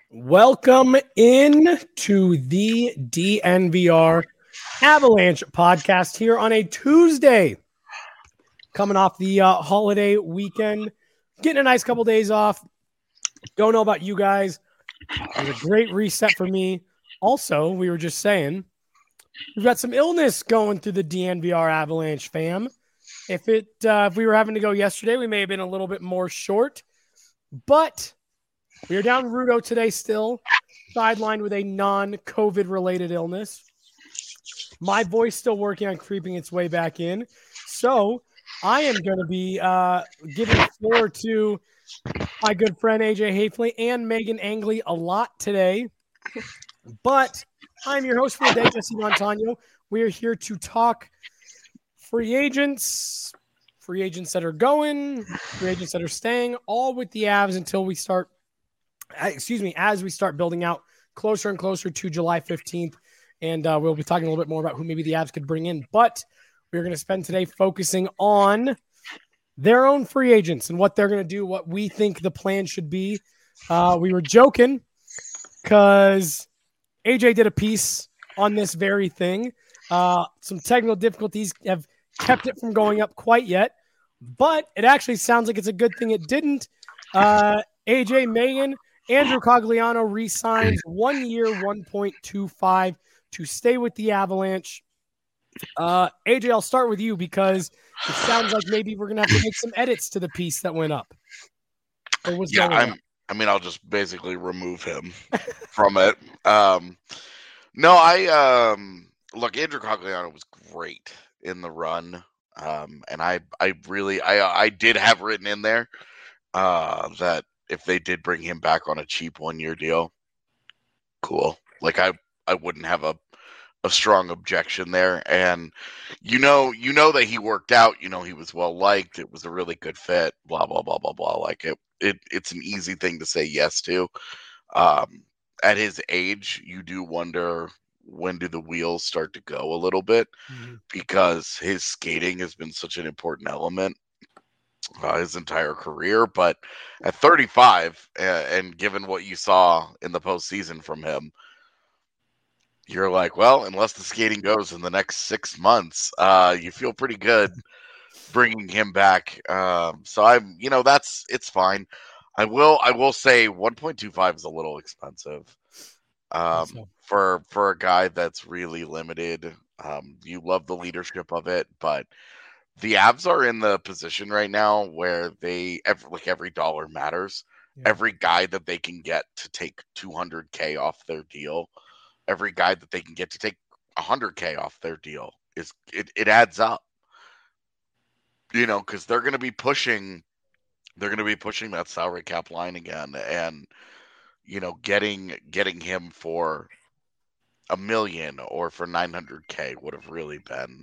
Welcome in to the DNVR Avalanche podcast here on a Tuesday. Coming off the holiday weekend, getting a nice couple days off. Don't know about you guys. It was a great reset for me. Also, we were just saying, we've got some illness going through the DNVR Avalanche fam. If we were having to go yesterday, we may have been a little bit more short, but we are down Rudo today still, sidelined with a non-COVID related illness. My voice still working on creeping its way back in. So I am going to be giving the floor to my good friend AJ Hafley and Megan Angley a lot today. But I'm your host for the day, Jesse Montano. We are here to talk free agents that are going, free agents that are staying, all with the Avs until we start as we start building out closer and closer to July 15th. And we'll be talking a little bit more about who maybe the Avs could bring in. But we're going to spend today focusing on their own free agents and what they're going to do, what we think the plan should be. We were joking because AJ did a piece on this very thing. Some technical difficulties have kept it from going up quite yet, but it actually sounds like it's a good thing it didn't. AJ, Megan, Andrew Cogliano re-signs 1 year, 1.25 to stay with the Avalanche. AJ, I'll start with you because it sounds like maybe we're going to have to make some edits to the piece that went up. I'll just basically remove him from it. Look, Andrew Cogliano was great in the run. And I did have written in there that if they did bring him back on a cheap 1 year deal, cool. Like I wouldn't have a strong objection there. And you know that he worked out, he was well liked, it was a really good fit, blah, blah, blah, blah, blah. Like it's an easy thing to say yes to. At his age, you do wonder, when do the wheels start to go a little bit? Because his skating has been such an important element his entire career. But at 35, and given what you saw in the postseason from him, you're like, well, unless the skating goes in the next 6 months, you feel pretty good bringing him back. So it's fine. I will say 1.25 is a little expensive. For a guy that's really limited. You love the leadership of it, but the Avs are in the position right now where every dollar matters. Yeah. Every guy that they can get to take $200K off their deal, every guy that they can get to take $100K off their deal it adds up. Because they're going to be pushing that salary cap line again, and getting him for $1 million or for $900K would have really been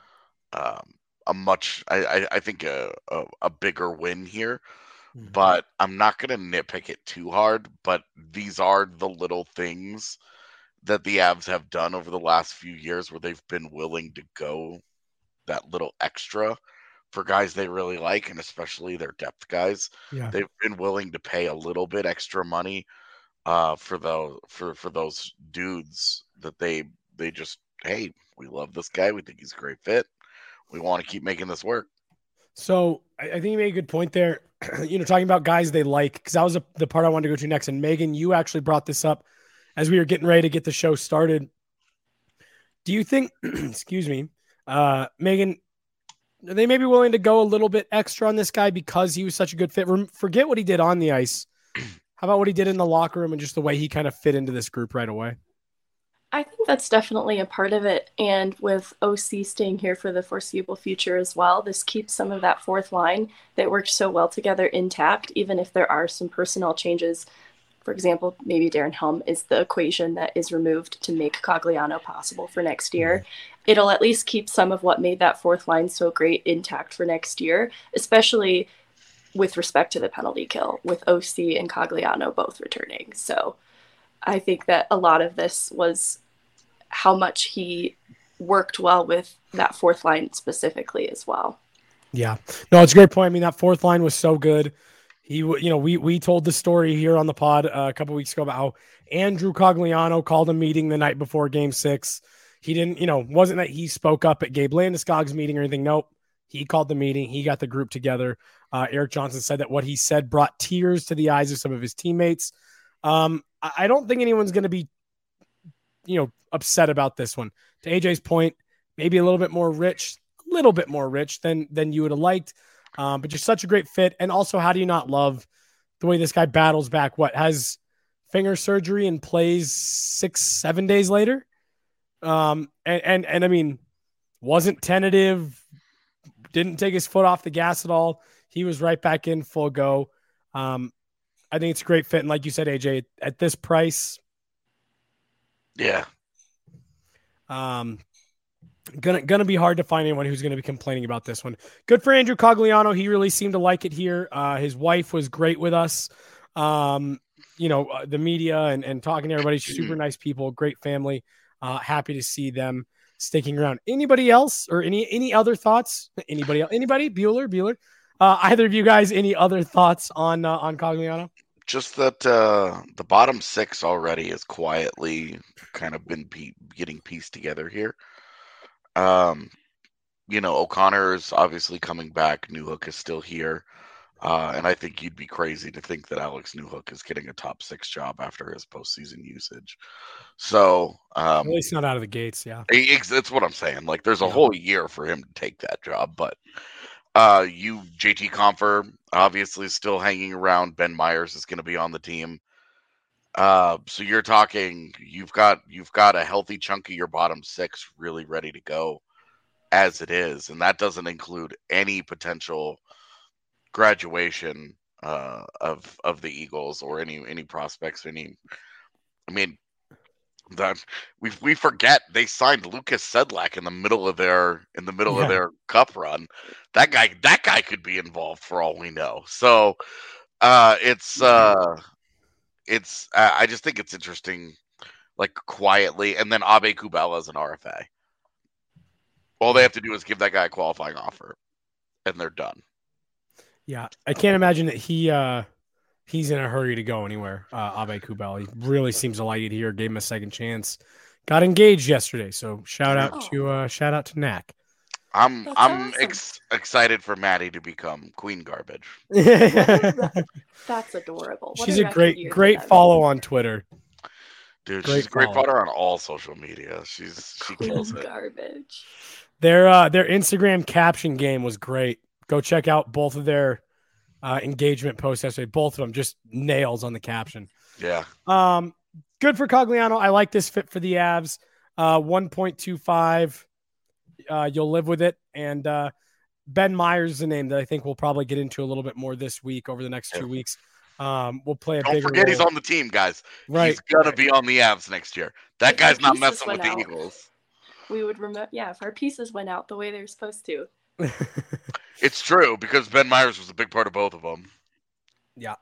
I think a bigger win here. Mm-hmm. But I'm not going to nitpick it too hard. But these are the little things that the Avs have done over the last few years where they've been willing to go that little extra for guys they really like, and especially their depth guys. Yeah. They've been willing to pay a little bit extra money for those dudes that they just, hey, we love this guy, we think he's a great fit, we want to keep making this work. So I think you made a good point there. Talking about guys they like, because that was the part I wanted to go to next. And Megan, you actually brought this up as we were getting ready to get the show started. Do you think, excuse me, Megan, they may be willing to go a little bit extra on this guy because he was such a good fit? Forget what he did on the ice. How about what he did in the locker room and just the way he kind of fit into this group right away? I think that's definitely a part of it. And with OC staying here for the foreseeable future as well, this keeps some of that fourth line that worked so well together intact, even if there are some personnel changes. For example, maybe Darren Helm is the equation that is removed to make Cogliano possible for next year. It'll at least keep some of what made that fourth line so great intact for next year, especially with respect to the penalty kill, with OC and Cogliano both returning. So I think that a lot of this was how much he worked well with that fourth line specifically as well. Yeah. No, it's a great point. I mean, that fourth line was so good. We told the story here on the pod a couple weeks ago about how Andrew Cogliano called a meeting the night before Game 6. He didn't, wasn't that he spoke up at Gabe Landeskog's meeting or anything. Nope. He called the meeting. He got the group together. Erik Johnson said that what he said brought tears to the eyes of some of his teammates. I don't think anyone's going to be, upset about this one. To AJ's point, maybe a little bit more rich than you would have liked. But you're such a great fit. And also, how do you not love the way this guy battles back? Has finger surgery and plays 6-7 days later? And I mean, wasn't tentative, didn't take his foot off the gas at all. He was right back in full go. I think it's a great fit. And like you said, AJ, at this price. Yeah. Gonna be hard to find anyone who's going to be complaining about this one. Good for Andrew Cogliano. He really seemed to like it here. His wife was great with us. The media and talking to everybody, super nice people, great family. Happy to see them sticking around. Anybody else or any other thoughts? Anybody else? Anybody? Bueller? Either of you guys, any other thoughts on Cogliano? Just that the bottom 6 already has quietly kind of been getting pieced together here. O'Connor is obviously coming back. Newhook is still here. And I think you'd be crazy to think that Alex Newhook is getting a top 6 job after his postseason usage. So, at least not out of the gates. Yeah. That's what I'm saying. Like, there's a whole year for him to take that job, but JT Compher obviously still hanging around. Ben Myers is going to be on the team. So you're talking, you've got a healthy chunk of your bottom 6 really ready to go as it is. And that doesn't include any potential graduation, of the Eagles or any prospects, that we forget they signed Lucas Sedlak in the middle of their cup run. That guy could be involved for all we know. So, I just think it's interesting, like quietly, and then Abe Kubala as an RFA. All they have to do is give that guy a qualifying offer, and they're done. Yeah, I can't imagine that he's in a hurry to go anywhere. Abe Kubala, he really seems to like it here. Gave him a second chance. Got engaged yesterday, so shout out to Knack. I'm awesome. Excited for Maddie to become Queen Garbage. That's adorable. She's a great follow on Twitter. Dude, she's a great follower on all social media. She kills it. Garbage. Their Instagram caption game was great. Go check out both of their engagement posts yesterday. Both of them just nails on the caption. Yeah. Good for Cogliano. I like this fit for the Avs. 1.25. You'll live with it. And Ben Myers is a name that I think we'll probably get into a little bit more this week over the next 2 weeks. We'll play a bigger Don't forget role. He's on the team, guys. Right. He's going to be on the Avs next year. That guy's not messing with the Eagles. We would remember, if our pieces went out the way they're supposed to. It's true, because Ben Myers was a big part of both of them. Yeah.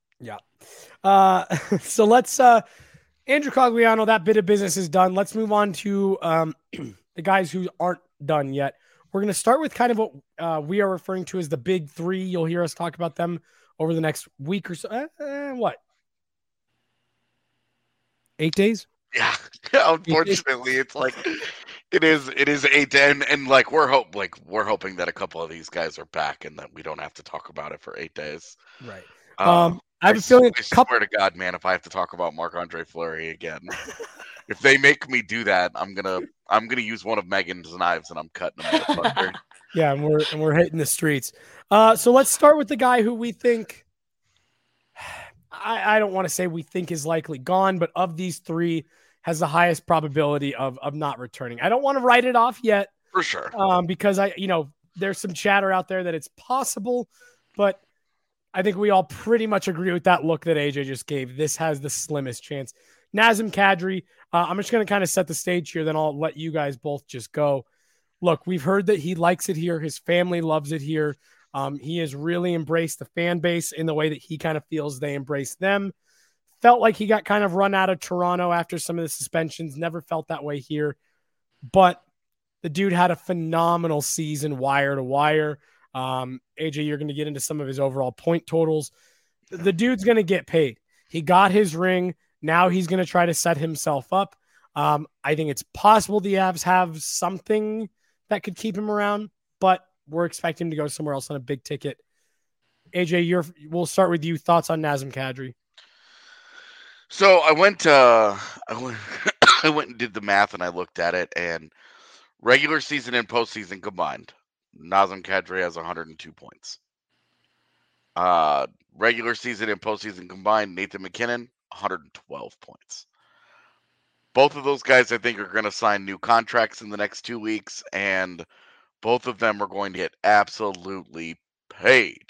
So let's Andrew Cogliano, that bit of business is done. Let's move on to the guys who aren't done yet. We're going to start with kind of what we are referring to as the big 3. You'll hear us talk about them over the next week or so. What? 8 days? Yeah. Unfortunately, it's like it is 8 and like we're hoping that a couple of these guys are back and that we don't have to talk about it for 8 days. Right. I have a feeling. I swear to God, man, if I have to talk about Marc-Andre Fleury again, if they make me do that, I'm gonna use one of Megan's knives and I'm cutting them. Yeah, and we're hitting the streets. So let's start with the guy who we think. I don't want to say we think is likely gone, but of these 3 has the highest probability of not returning. I don't want to write it off yet. For sure. Because there's some chatter out there that it's possible, but I think we all pretty much agree with that look that AJ just gave. This has the slimmest chance. Nazem Kadri, I'm just going to kind of set the stage here, then I'll let you guys both just go. Look, we've heard that he likes it here. His family loves it here. He has really embraced the fan base in the way that he kind of feels they embrace them. Felt like he got kind of run out of Toronto after some of the suspensions. Never felt that way here. But the dude had a phenomenal season wire to wire. AJ, you're going to get into some of his overall point totals. The dude's going to get paid. He got his ring. Now he's going to try to set himself up. I think it's possible the Avs have something that could keep him around, but we're expecting him to go somewhere else on a big ticket. AJ, we'll start with you. Thoughts on Nazem Kadri? So I went I went and did the math, and I looked at it, and regular season and postseason combined, Nazem Kadri has 102 points. Regular season and postseason combined, Nathan MacKinnon, 112 points. Both of those guys, I think, are going to sign new contracts in the next 2 weeks, and both of them are going to get absolutely paid.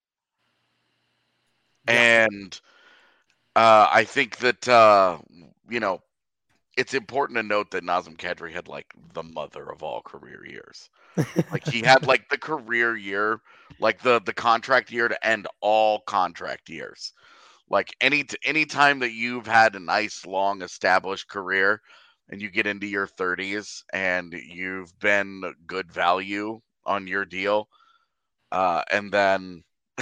Yeah. And I think that, it's important to note that Nazem Kadri had, like, the mother of all career years. Like, he had, like, the career year, like, the contract year to end all contract years. Like, any time that you've had a nice, long, established career and you get into your 30s and you've been good value on your deal, and then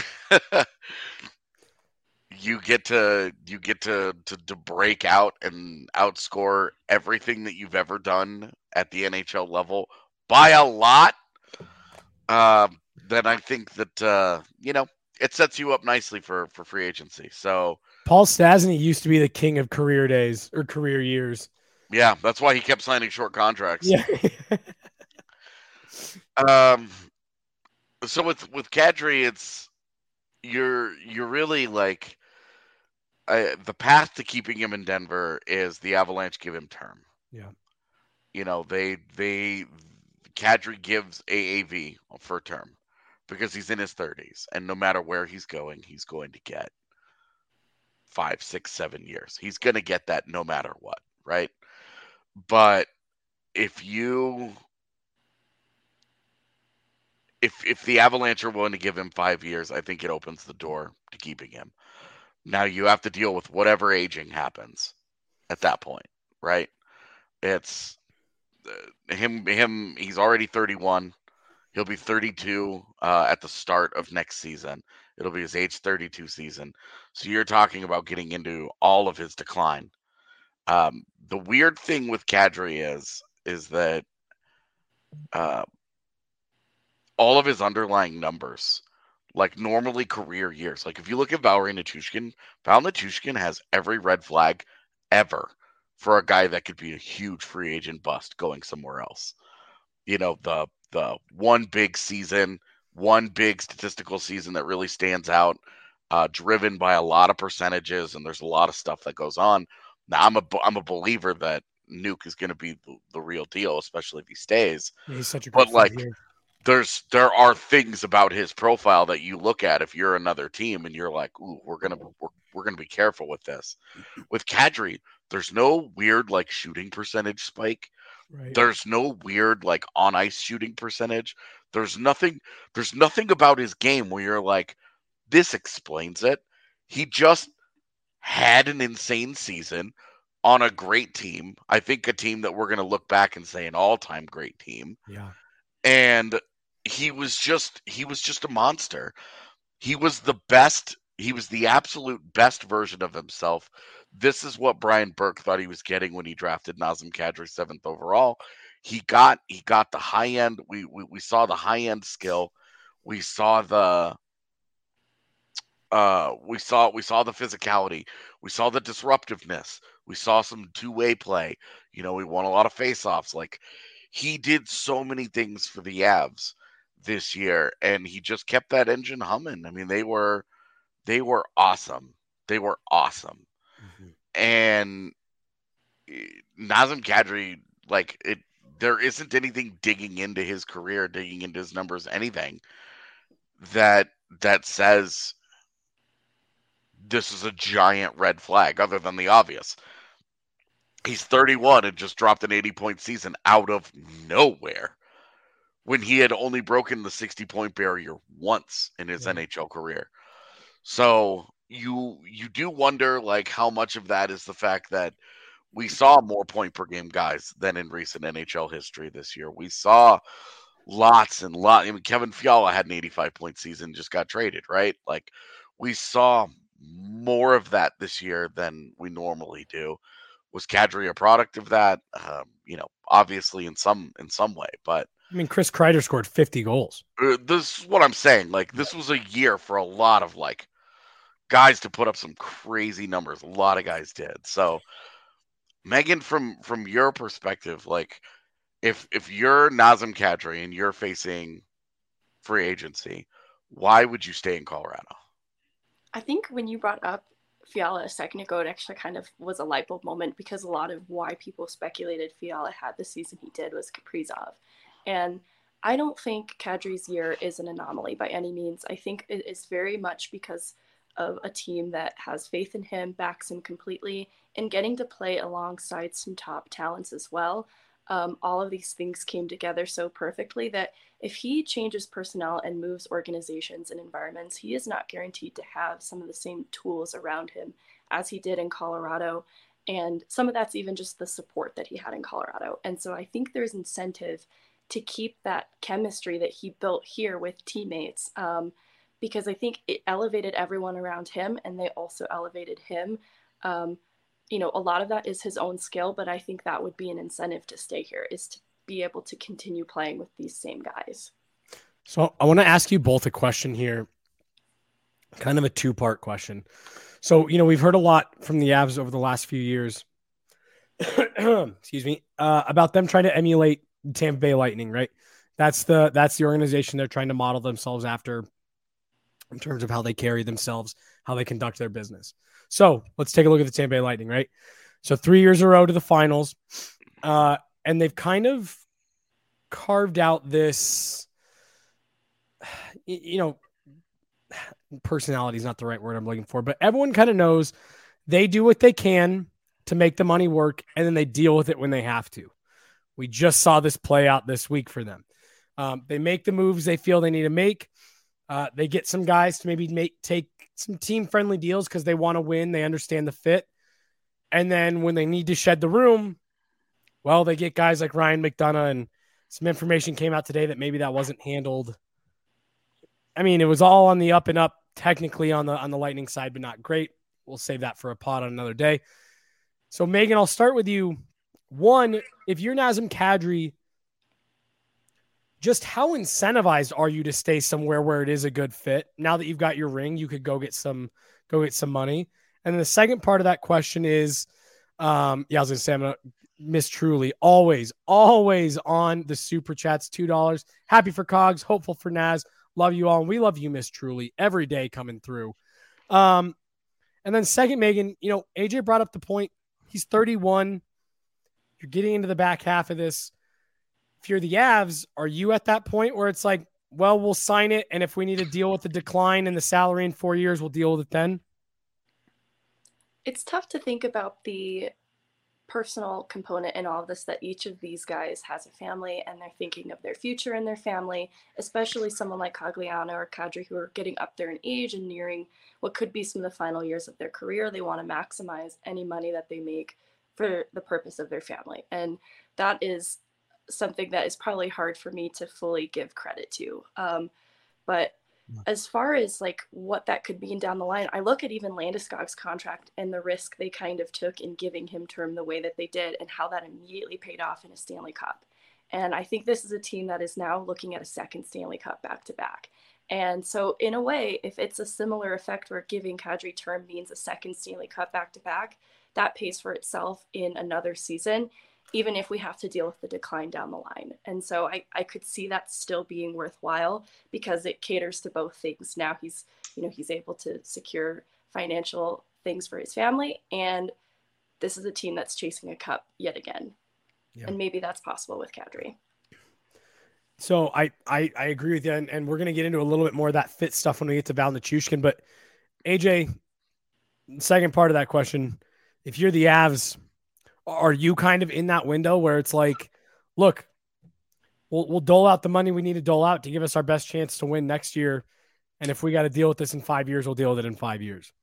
you get to break out and outscore everything that you've ever done at the NHL level by a lot, then I think that it sets you up nicely for free agency. So Paul Stastny used to be the king of career days or career years. Yeah, that's why he kept signing short contracts. Yeah. So with Kadri, it's you're really like the path to keeping him in Denver is the Avalanche give him term. Yeah. Kadri gives AAV for term because he's in his 30s, and no matter where he's going to get 5, 6, 7 years. He's going to get that no matter what, right? But if the Avalanche are willing to give him 5 years, I think it opens the door to keeping him. Now you have to deal with whatever aging happens at that point, right? It's him. He's already 31. He'll be 32 at the start of next season. It'll be his age 32 season. So you're talking about getting into all of his decline. The weird thing with Kadri is that all of his underlying numbers, like normally career years, like if you look at Valeri Nichushkin, Val Nichushkin has every red flag ever for a guy that could be a huge free agent bust going somewhere else. The one big season, one big statistical season that really stands out, driven by a lot of percentages, and there's a lot of stuff that goes on. Now, I'm a believer that Nuke is going to be the real deal, especially if he stays. Yeah, he's such a good there are things about his profile that you look at if you're another team and you're like, ooh, we're gonna be careful with this. With Kadri, there's no weird like shooting percentage spike. Right. There's no weird like on ice shooting percentage. There's nothing about his game where you're like, this explains it. He just had an insane season on a great team. I think a team that we're going to look back and say an all-time great team. Yeah. And he was just a monster. He was the best. He was the absolute best version of himself. This is what Brian Burke thought he was getting when he drafted Nazem Kadri 7th overall. He got the high end. We saw the high end skill. We saw the physicality. We saw the disruptiveness. We saw some two-way play. We won a lot of face-offs. Like, he did so many things for the Avs this year, and he just kept that engine humming. I mean, they were awesome. They were awesome. Mm-hmm. And Nazem Kadri, there isn't anything digging into his career, digging into his numbers, anything that says this is a giant red flag other than the obvious. He's 31 and just dropped an 80-point season out of nowhere when he had only broken the 60-point barrier once in his NHL career. So you do wonder like how much of that is the fact that we saw more point per game guys than in recent NHL history this year. We saw lots and lots. I mean, Kevin Fiala had an 85-point season, just got traded, right? Like, we saw more of that this year than we normally do. Was Kadri a product of that? Obviously in some way, but I mean, Chris Kreider scored 50 goals. This is what I'm saying. Like, this was a year for a lot of like guys to put up some crazy numbers. A lot of guys did. So, Megan, from your perspective, like, if you're Nazem Kadri and you're facing free agency, why would you stay in Colorado? I think when you brought up Fiala a second ago, it actually kind of was a light bulb moment, because a lot of why people speculated Fiala had the season he did was Kaprizov. And I don't think Kadri's year is an anomaly by any means. I think it is very much because of a team that has faith in him, backs him completely, and getting to play alongside some top talents as well. All of these things came together so perfectly that if he changes personnel and moves organizations and environments, he is not guaranteed to have some of the same tools around him as he did in Colorado. And some of that's even just the support that he had in Colorado. And so I think there's incentive to keep that chemistry that he built here with teammates, because I think it elevated everyone around him and they also elevated him. A lot of that is his own skill, but I think that would be an incentive to stay here, is to be able to continue playing with these same guys. So I want to ask you both a question here, kind of a two-part question. So, we've heard a lot from the Avs over the last few years, excuse me, about them trying to emulate the Tampa Bay Lightning, right? That's the organization they're trying to model themselves after in terms of how they carry themselves, how they conduct their business. So let's take a look at the Tampa Bay Lightning, right? So 3 years in a row to the finals, and they've kind of carved out this, personality is not the right word I'm looking for, but everyone kind of knows they do what they can to make the money work, and then they deal with it when they have to. We just saw this play out this week for them. They make the moves they feel they need to make. They get some guys to maybe take some team-friendly deals because they want to win. They understand the fit. And then when they need to shed the room, well, they get guys like Ryan McDonagh, and some information came out today that maybe that wasn't handled. I mean, it was all on the up and up, technically on the Lightning side, but not great. We'll save that for a pod on another day. So, Megan, I'll start with you. One, if you're Nazem Kadri, just how incentivized are you to stay somewhere where it is a good fit? Now that you've got your ring, you could go get some money. And then the second part of that question is, I was going to say, I'm going to Miss Truly, always on the super chats, $2. Happy for Cogs, hopeful for Naz. Love you all. And we love you, Miss Truly, every day coming through. And then second, Megan, AJ brought up the point. He's 31. You're getting into the back half of this. If you're the Avs, are you at that point where it's like, well, we'll sign it, and if we need to deal with the decline in the salary in 4 years, we'll deal with it then? It's tough to think about the personal component in all of this, that each of these guys has a family and they're thinking of their future and their family, especially someone like Cogliano or Kadri, who are getting up there in age and nearing what could be some of the final years of their career. They want to maximize any money that they make for the purpose of their family. And that is something that is probably hard for me to fully give credit to. But as far as like what that could mean down the line, I look at even Landeskog's contract and the risk they kind of took in giving him term the way that they did, and how that immediately paid off in a Stanley Cup. And I think this is a team that is now looking at a second Stanley Cup back to back. And so in a way, if it's a similar effect where giving Kadri term means a second Stanley Cup back to back, that pays for itself in another season, even if we have to deal with the decline down the line. And so I could see that still being worthwhile, because it caters to both things. Now he's able to secure financial things for his family, and this is a team that's chasing a cup yet again. Yeah. And maybe that's possible with Kadri. So I agree with you, and we're going to get into a little bit more of that fit stuff when we get to Val Nichushkin. But AJ, second part of that question, if you're the Avs, are you kind of in that window where it's like, look, we'll dole out the money we need to dole out to give us our best chance to win next year, and if we got to deal with this in 5 years, we'll deal with it in 5 years?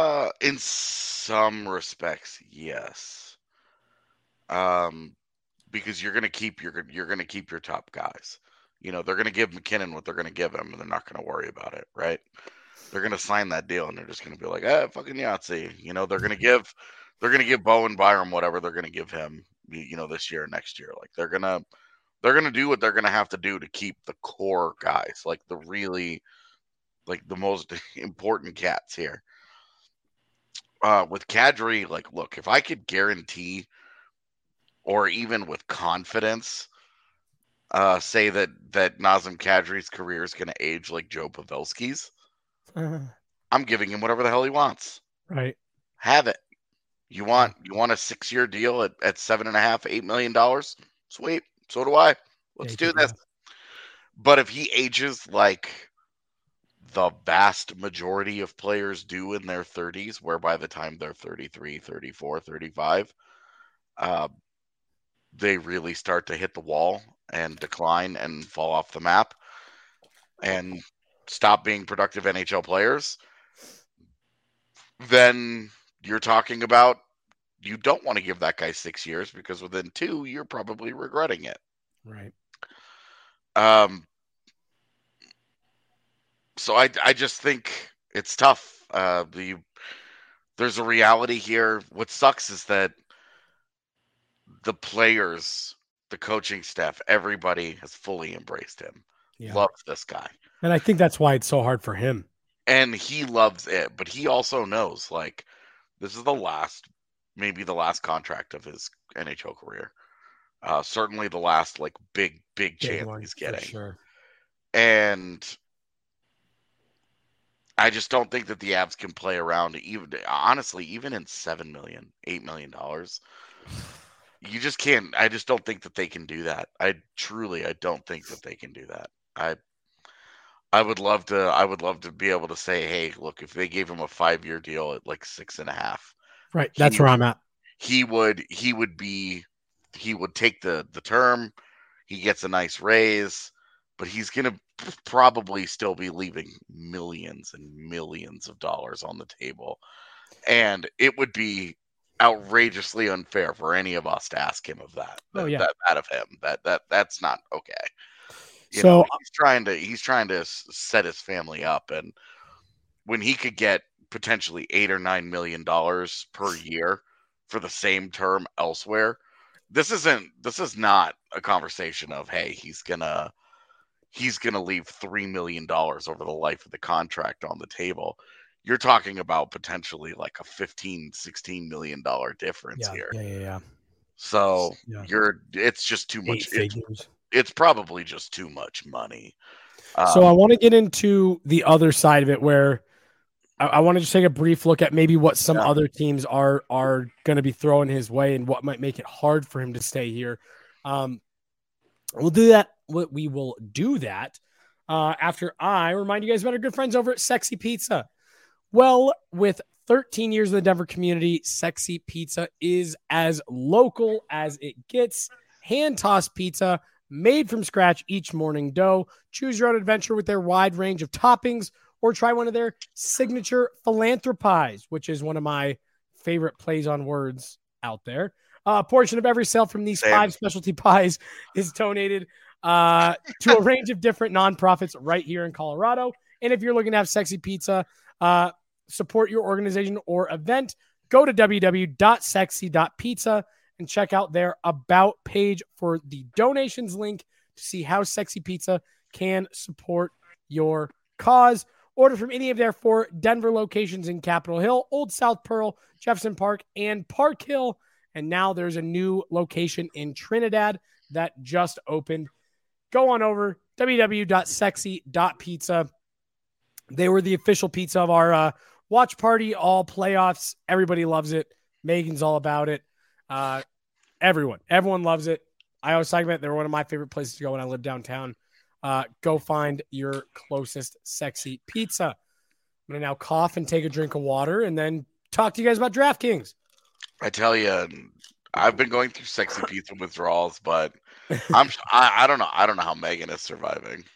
In some respects, yes. because you're gonna keep your top guys. You know, they're gonna give McKinnon what they're gonna give him, and they're not gonna worry about it, right? They're gonna sign that deal, and they're just gonna be like, fucking Yahtzee. You know, they're gonna give Bowen Byram whatever they're gonna give him. You know, this year, next year, like they're gonna do what they're gonna have to do to keep the core guys, like the really, like the most important cats here. With Kadri, like, look, if I could guarantee, or even with confidence, say that Nazem Kadri's career is going to age like Joe Pavelski's, I'm giving him whatever the hell he wants. Right. Have it. You want a 6-year deal at $7.5, $8 million? Sweet. So do I. Let's do this. But if he ages like the vast majority of players do in their 30s, where by the time they're 33, 34, 35, they really start to hit the wall and decline and fall off the map and stop being productive NHL players, then you're talking about you don't want to give that guy 6 years, because within 2, you're probably regretting it. Right. So I just think it's tough. There's a reality here. What sucks is that the players, the coaching staff, everybody has fully embraced him. Yeah. Loves this guy. And I think that's why it's so hard for him. And he loves it, but he also knows, like, this is maybe the last contract of his NHL career. Certainly the last, like, big chance he's getting. For sure. And I just don't think that the Avs can play around, even in $7 million, $8 million. You just can't. I just don't think that they can do that. I don't think that they can do that. I would love to be able to say, hey, look, if they gave him a 5-year deal at like 6.5, right? That's where I'm at. He would take the term. He gets a nice raise, but he's gonna probably still be leaving millions and millions of dollars on the table, and it would be outrageously unfair for any of us to ask him of that. That of him. That's not okay. You know, he's trying to set his family up, and when he could get potentially $8 or $9 million per year for the same term elsewhere, this is not a conversation of, hey, he's gonna leave $3 million over the life of the contract on the table. You're talking about potentially like a $15-16 million difference here. Yeah. So it's just too much. It's probably just too much money. So I want to get into the other side of it, where I want to just take a brief look at maybe what some other teams are going to be throwing his way and what might make it hard for him to stay here. We'll do that. We will do that after I remind you guys about our good friends over at Sexy Pizza. Well, with 13 years in the Denver community, Sexy Pizza is as local as it gets. Hand-tossed pizza made from scratch each morning dough. Choose your own adventure with their wide range of toppings, or try one of their signature philanthropies, which is one of my favorite plays on words out there. A portion of every sale from these 5 specialty pies is donated to a range of different nonprofits right here in Colorado. And if you're looking to have Sexy Pizza support your organization or event, go to www.sexy.pizza and check out their About page for the donations link to see how Sexy Pizza can support your cause. Order from any of their 4 Denver locations in Capitol Hill, Old South Pearl, Jefferson Park, and Park Hill. And now there's a new location in Trinidad that just opened. Go on over, www.sexy.pizza. They were the official pizza of our watch party, all playoffs. Everybody loves it. Megan's all about it. Everyone loves it. I always talk about it. They're one of my favorite places to go when I live downtown. Go find your closest Sexy Pizza. I'm going to now cough and take a drink of water and then talk to you guys about DraftKings. I tell you, I've been going through Sexy Pizza withdrawals, but I don't know. I don't know how Megan is surviving.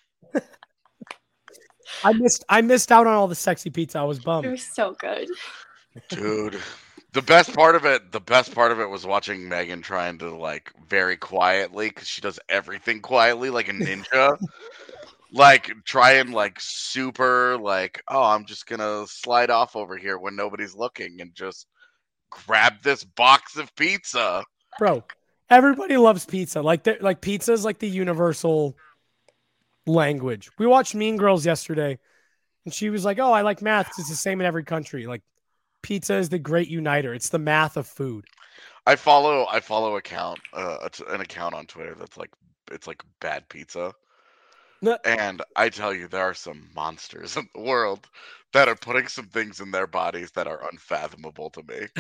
I missed out on all the Sexy Pizza. I was bummed. It was so good. Dude, The best part of it was watching Megan trying to like very quietly, because she does everything quietly like a ninja. Like try and like super like, oh, I'm just gonna slide off over here when nobody's looking and just grab this box of pizza. Bro, everybody loves pizza. Like pizza is like the universal language. We watched Mean Girls yesterday, and she was like, "Oh, I like math 'cause it's the same in every country." Like, pizza is the great uniter. It's the math of food. I follow an account on Twitter that's like, it's like bad pizza. And I tell you, there are some monsters in the world that are putting some things in their bodies that are unfathomable to me.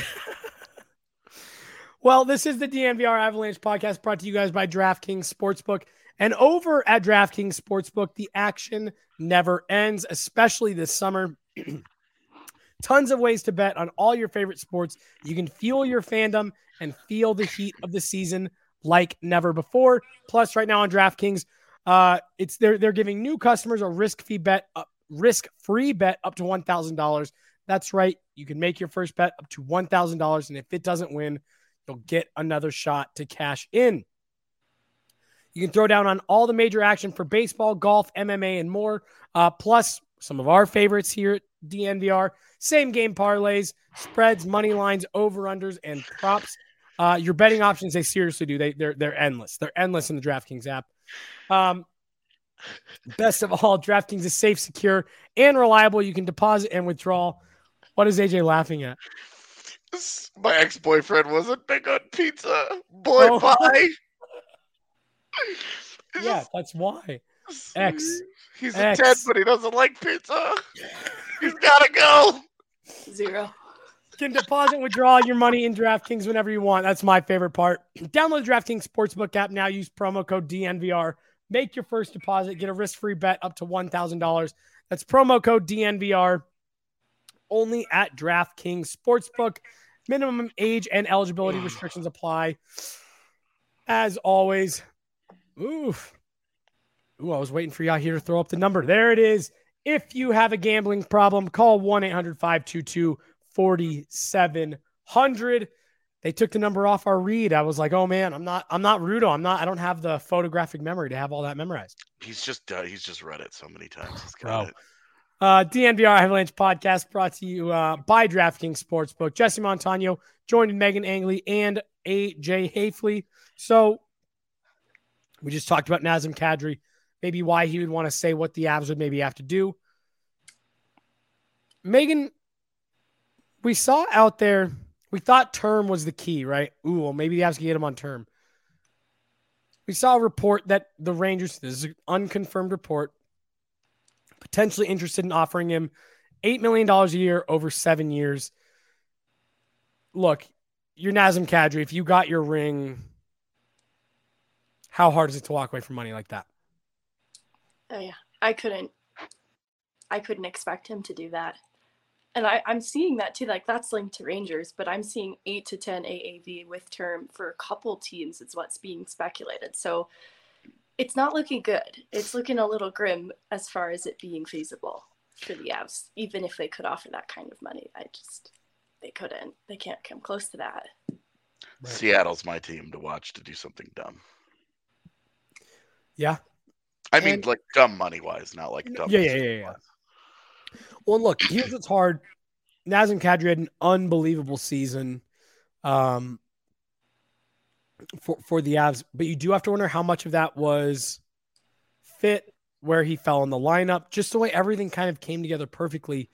Well, this is the DNVR Avalanche podcast brought to you guys by DraftKings Sportsbook. And over at DraftKings Sportsbook, the action never ends, especially this summer. Tons of ways to bet on all your favorite sports. You can fuel your fandom and feel the heat of the season like never before. Plus, right now on DraftKings, they're giving new customers a risk-free bet up to $1,000. That's right. You can make your first bet up to $1,000, and if it doesn't win, you'll get another shot to cash in. You can throw down on all the major action for baseball, golf, MMA, and more. Plus, some of our favorites here at DNVR. Same game parlays, spreads, money lines, over-unders, and props. Your betting options, they seriously do. They're endless. They're endless in the DraftKings app. Best of all, DraftKings is safe, secure, and reliable. You can deposit and withdraw. What is AJ laughing at? My ex-boyfriend wasn't big on pizza. Boy, bye. Yeah, that's why. X. He's a 10, but he doesn't like pizza. He's got to go. 0. You can deposit and withdraw your money in DraftKings whenever you want. That's my favorite part. Download the DraftKings Sportsbook app now. Use promo code DNVR. Make your first deposit. Get a risk-free bet up to $1,000. That's promo code DNVR. Only at DraftKings Sportsbook. Minimum age and eligibility restrictions apply. As always. Ooh, I was waiting for y'all here to throw up the number. There it is. If you have a gambling problem, call 1-800-522-4700. They took the number off our read. I was like, oh man, I'm not Rudo. I don't have the photographic memory to have all that memorized. He's just read it so many times. He's got it. DNVR Avalanche podcast brought to you by DraftKings Sportsbook. Jesse Montano joined Megan Angley and AJ Hafley. So we just talked about Nazem Kadri, maybe why he would want to say what the Avs would maybe have to do. Megan, we saw out there, we thought term was the key, right? Ooh, well, maybe the Avs can get him on term. We saw a report that the Rangers, this is an unconfirmed report, potentially interested in offering him $8 million a year over 7 years. Look, you're Nazem Kadri. If you got your ring, how hard is it to walk away from money like that? Oh yeah, I couldn't expect him to do that. And I'm seeing that too. Like, that's linked to Rangers, but I'm seeing 8 to 10 AAV with term for a couple teams. It's what's being speculated. So it's not looking good. It's looking a little grim as far as it being feasible for the Avs, even if they could offer that kind of money. They couldn't. They can't come close to that. Seattle's my team to watch to do something dumb. Yeah. I mean, like dumb money-wise, not like dumb. Yeah. Well, look, here's what's hard. Nazem Kadri had an unbelievable season for the Avs, but you do have to wonder how much of that was fit, where he fell in the lineup, just the way everything kind of came together perfectly.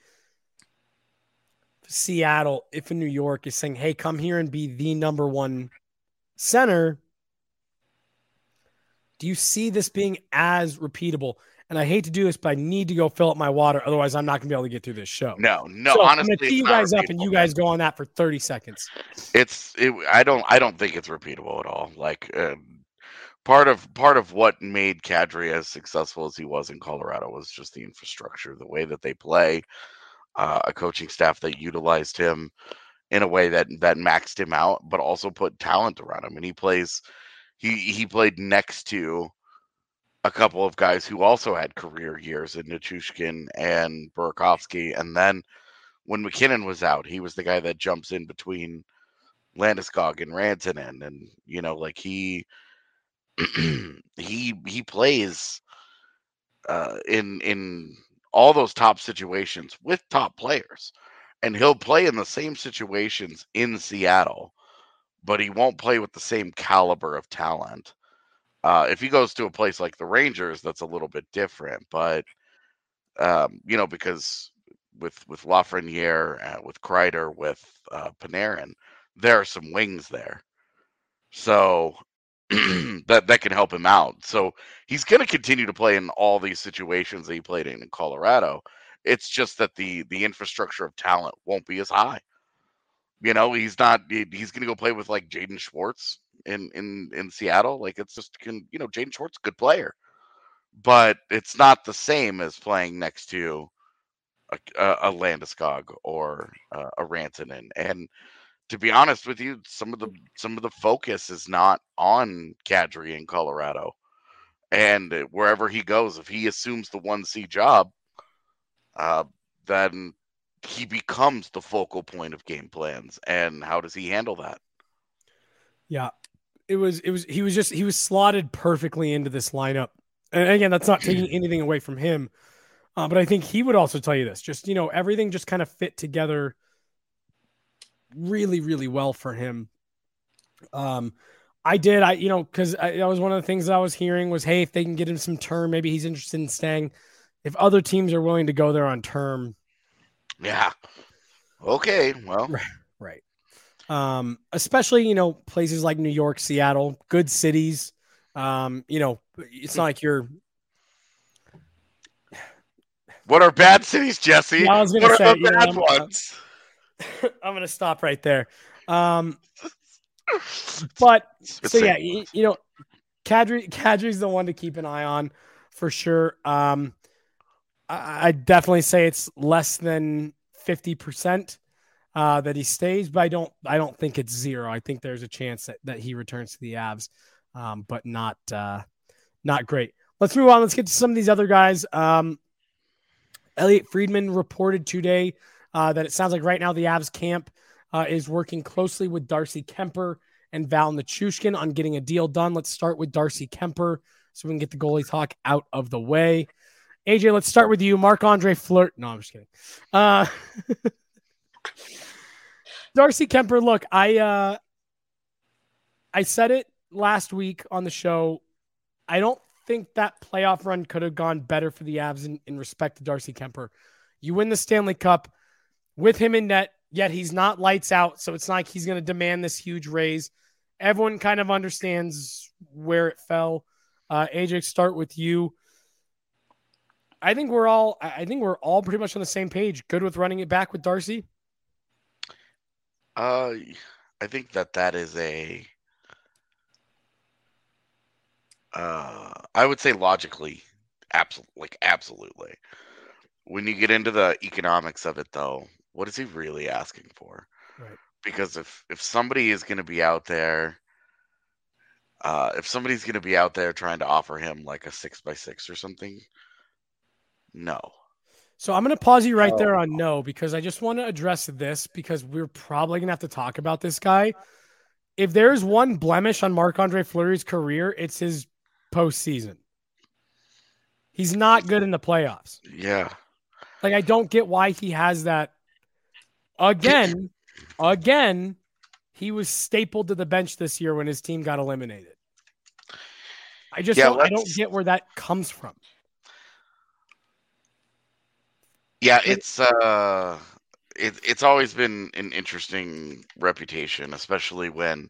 Seattle, if in New York, is saying, hey, come here and be the number one center. Do you see this being as repeatable? And I hate to do this, but I need to go fill up my water. Otherwise, I'm not going to be able to get through this show. No. So Honestly, I'm going to tee you guys up, and you guys go on that for 30 seconds. I don't think it's repeatable at all. Like part of what made Kadri as successful as he was in Colorado was just the infrastructure, the way that they play, a coaching staff that utilized him in a way that maxed him out, but also put talent around him. And he played next to a couple of guys who also had career years in Nichushkin and Burakovsky, and then when McKinnon was out, he was the guy that jumps in between Landeskog and Rantanen, and like he he plays in all those top situations with top players, and he'll play in the same situations in Seattle, but he won't play with the same caliber of talent. If he goes to a place like the Rangers, that's a little bit different, but because with Lafreniere, with Kreider, with Panarin, there are some wings there, so that can help him out. So he's going to continue to play in all these situations that he played in Colorado. It's just that the infrastructure of talent won't be as high. He's not. He's going to go play with like Jaden Schwartz in Seattle. Like it's just Jaden Schwartz, good player, but it's not the same as playing next to a Landeskog or a Rantanen. And to be honest with you, some of the focus is not on Kadri in Colorado, and wherever he goes, if he assumes the 1C job, then he becomes the focal point of game plans. And how does he handle that? Yeah, he was slotted perfectly into this lineup. And again, that's not taking anything away from him. But I think he would also tell you this, just, everything just kind of fit together really, really well for him. Because that was one of the things that I was hearing was, hey, if they can get him some term, maybe he's interested in staying. If other teams are willing to go there on term. Yeah. Okay. Well, right. Especially, places like New York, Seattle, good cities. It's not like you're. What are bad cities, Jesse? Yeah, I was what are the bad ones? I'm going to stop right there. But so yeah, Kadri's the one to keep an eye on for sure. I definitely say it's less than 50% that he stays, but I don't think it's zero. I think there's a chance that he returns to the Avs, but not great. Let's move on. Let's get to some of these other guys. Elliot Friedman reported today that it sounds like right now the Avs camp is working closely with Darcy Kemper and Val Nichushkin on getting a deal done. Let's start with Darcy Kemper so we can get the goalie talk out of the way. AJ, let's start with you. Marc-Andre Fleury. No, I'm just kidding. Darcy Kemper, look, I said it last week on the show. I don't think that playoff run could have gone better for the Avs in respect to Darcy Kemper. You win the Stanley Cup with him in net, yet he's not lights out, so it's not like he's going to demand this huge raise. Everyone kind of understands where it fell. AJ, start with you. I think we're all pretty much on the same page. Good with running it back with Darcy. I think that is a. I would say logically, absolutely. When you get into the economics of it, though, what is he really asking for? Right. Because if somebody is going to be out there, if somebody's going to be out there trying to offer him like a 6x6 or something, no. So I'm going to pause you right there on no, because I just want to address this because we're probably going to have to talk about this guy. If there's one blemish on Marc-Andre Fleury's career, it's his postseason. He's not good in the playoffs. Yeah. Like, I don't get why he has that. Again, he was stapled to the bench this year when his team got eliminated. I don't get where that comes from. Yeah, it's always been an interesting reputation, especially when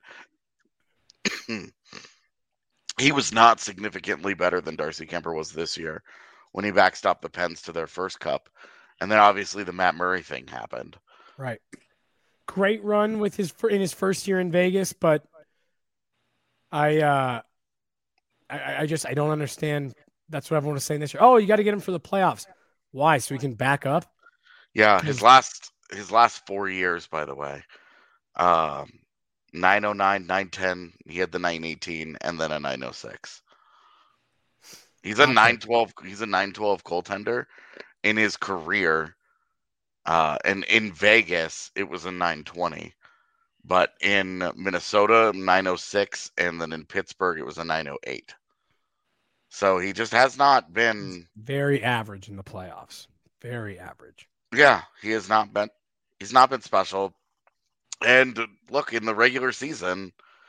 he was not significantly better than Darcy Kemper was this year when he backstopped the Pens to their first cup. And then obviously the Matt Murray thing happened. Right. Great run with in his first year in Vegas, but I don't understand. That's what everyone was saying this year. Oh, you got to get him for the playoffs. Why? So he can back up? Yeah, his last 4 years, by the way. 909, 910, he had the 918, and then a 906. He's a 912 goaltender. In his career, And in Vegas, it was a 920. But in Minnesota, 906, and then in Pittsburgh, it was a 908. So he just has not been very average in the playoffs. Very average. Yeah, he has not been. He's not been special. And look, in the regular season,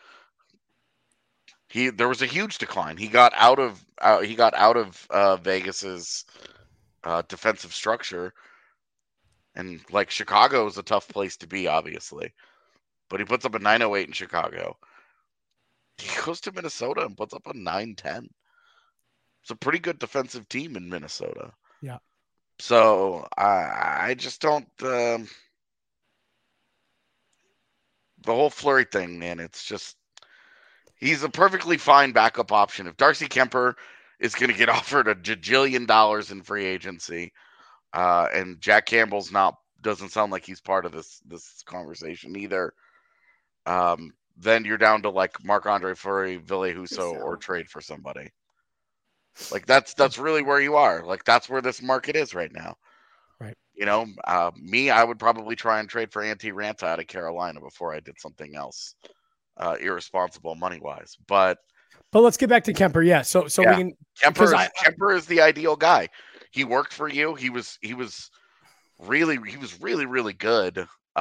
there was a huge decline. He got out of Vegas's defensive structure, and like Chicago is a tough place to be, obviously. But he puts up a 908 in Chicago. He goes to Minnesota and puts up a 910. It's a pretty good defensive team in Minnesota. Yeah. So I just don't. The whole Fleury thing, man. It's just he's a perfectly fine backup option. If Darcy Kemper is going to get offered a jillion dollars in free agency, and Jack Campbell's doesn't sound like he's part of this conversation either. Then you're down to like Marc-Andre Fleury, Ville Husso, or trade for somebody. Like that's really where you are. Like that's where this market is right now. Right. You know, I would probably try and trade for Antti Raanta out of Carolina before I did something else irresponsible money wise. But let's get back to Kemper. Yeah. So yeah. we can. Kemper is the ideal guy. He worked for you. He was really good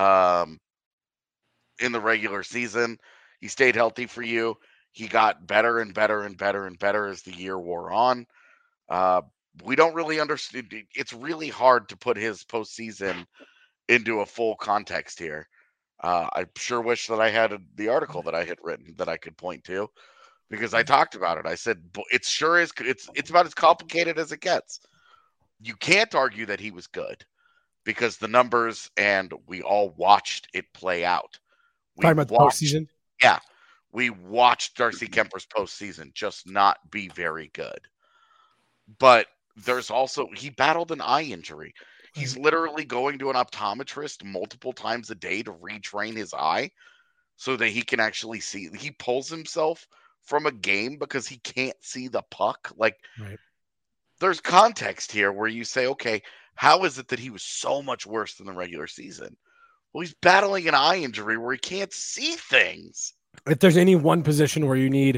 in the regular season. He stayed healthy for you. He got better and better and better and better as the year wore on. We don't really understand. It's really hard to put his postseason into a full context here. I sure wish that I had the article that I had written that I could point to, because I talked about it. I said it sure is. It's about as complicated as it gets. You can't argue that he was good because the numbers, and we all watched it play out. Talking about the postseason? Yeah. We watched Darcy Kemper's postseason just not be very good. But there's also, he battled an eye injury. He's literally going to an optometrist multiple times a day to retrain his eye so that he can actually see. He pulls himself from a game because he can't see the puck. Like, there's context here where you say, okay, how is it that he was so much worse than the regular season? Well, he's battling an eye injury where he can't see things. If there's any one position where you need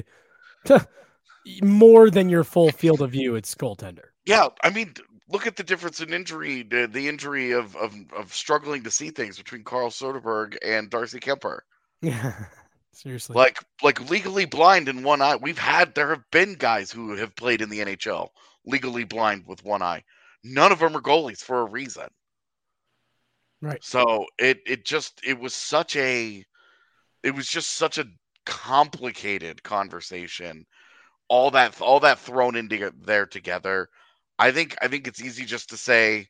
more than your full field of view, it's goaltender. Yeah, I mean, look at the difference in injury, the injury of struggling to see things between Carl Soderberg and Darcy Kemper. Yeah, seriously. Like legally blind in one eye. There have been guys who have played in the NHL legally blind with one eye. None of them are goalies for a reason. Right. So it was just such a complicated conversation. All that thrown into there together. I think it's easy just to say,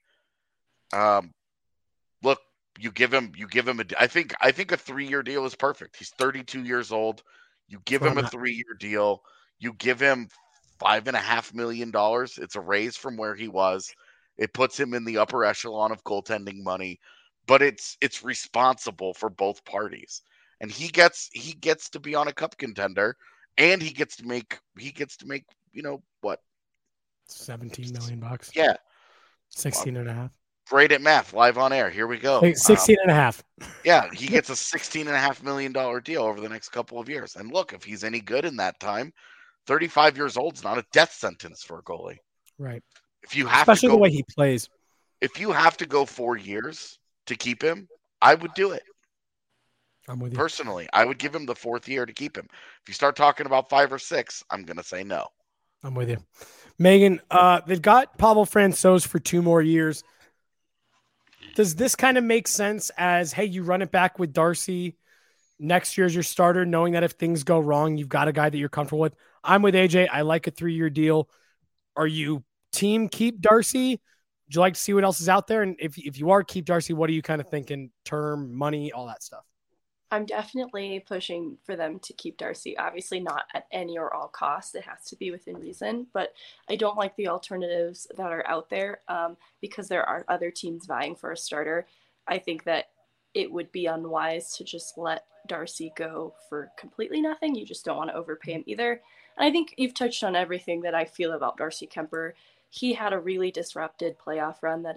look, you give him I think a 3-year deal is perfect. He's 32 years old. You give him a 3-year deal. You give him $5.5 million. It's a raise from where he was. It puts him in the upper echelon of goaltending money, but it's responsible for both parties. And he gets to be on a cup contender, and he gets to make you know what, $17 million. Yeah, 16 and a half. Great at math, live on air. Here we go. 16 and a half. Yeah, he gets a $16.5 million deal over the next couple of years. And look, if he's any good in that time, 35 years old is not a death sentence for a goalie. Right. If you have especially the way he plays. If you have to go 4 years to keep him, I would do it. I'm with you. Personally, I would give him the 4th year to keep him. If you start talking about 5 or 6, I'm going to say no. I'm with you. Megan, they've got Pavel Francouz for 2 more years. Does this kind of make sense as, hey, you run it back with Darcy next year as your starter, knowing that if things go wrong, you've got a guy that you're comfortable with? I'm with AJ. I like a 3-year deal. Are you team keep Darcy? Would you like to see what else is out there? And if you are keep Darcy, what are you kind of thinking? Term, money, all that stuff. I'm definitely pushing for them to keep Darcy. Obviously not at any or all costs. It has to be within reason. But I don't like the alternatives that are out there because there are other teams vying for a starter. I think that it would be unwise to just let Darcy go for completely nothing. You just don't want to overpay him either. And I think you've touched on everything that I feel about Darcy Kemper. He had a really disrupted playoff run that is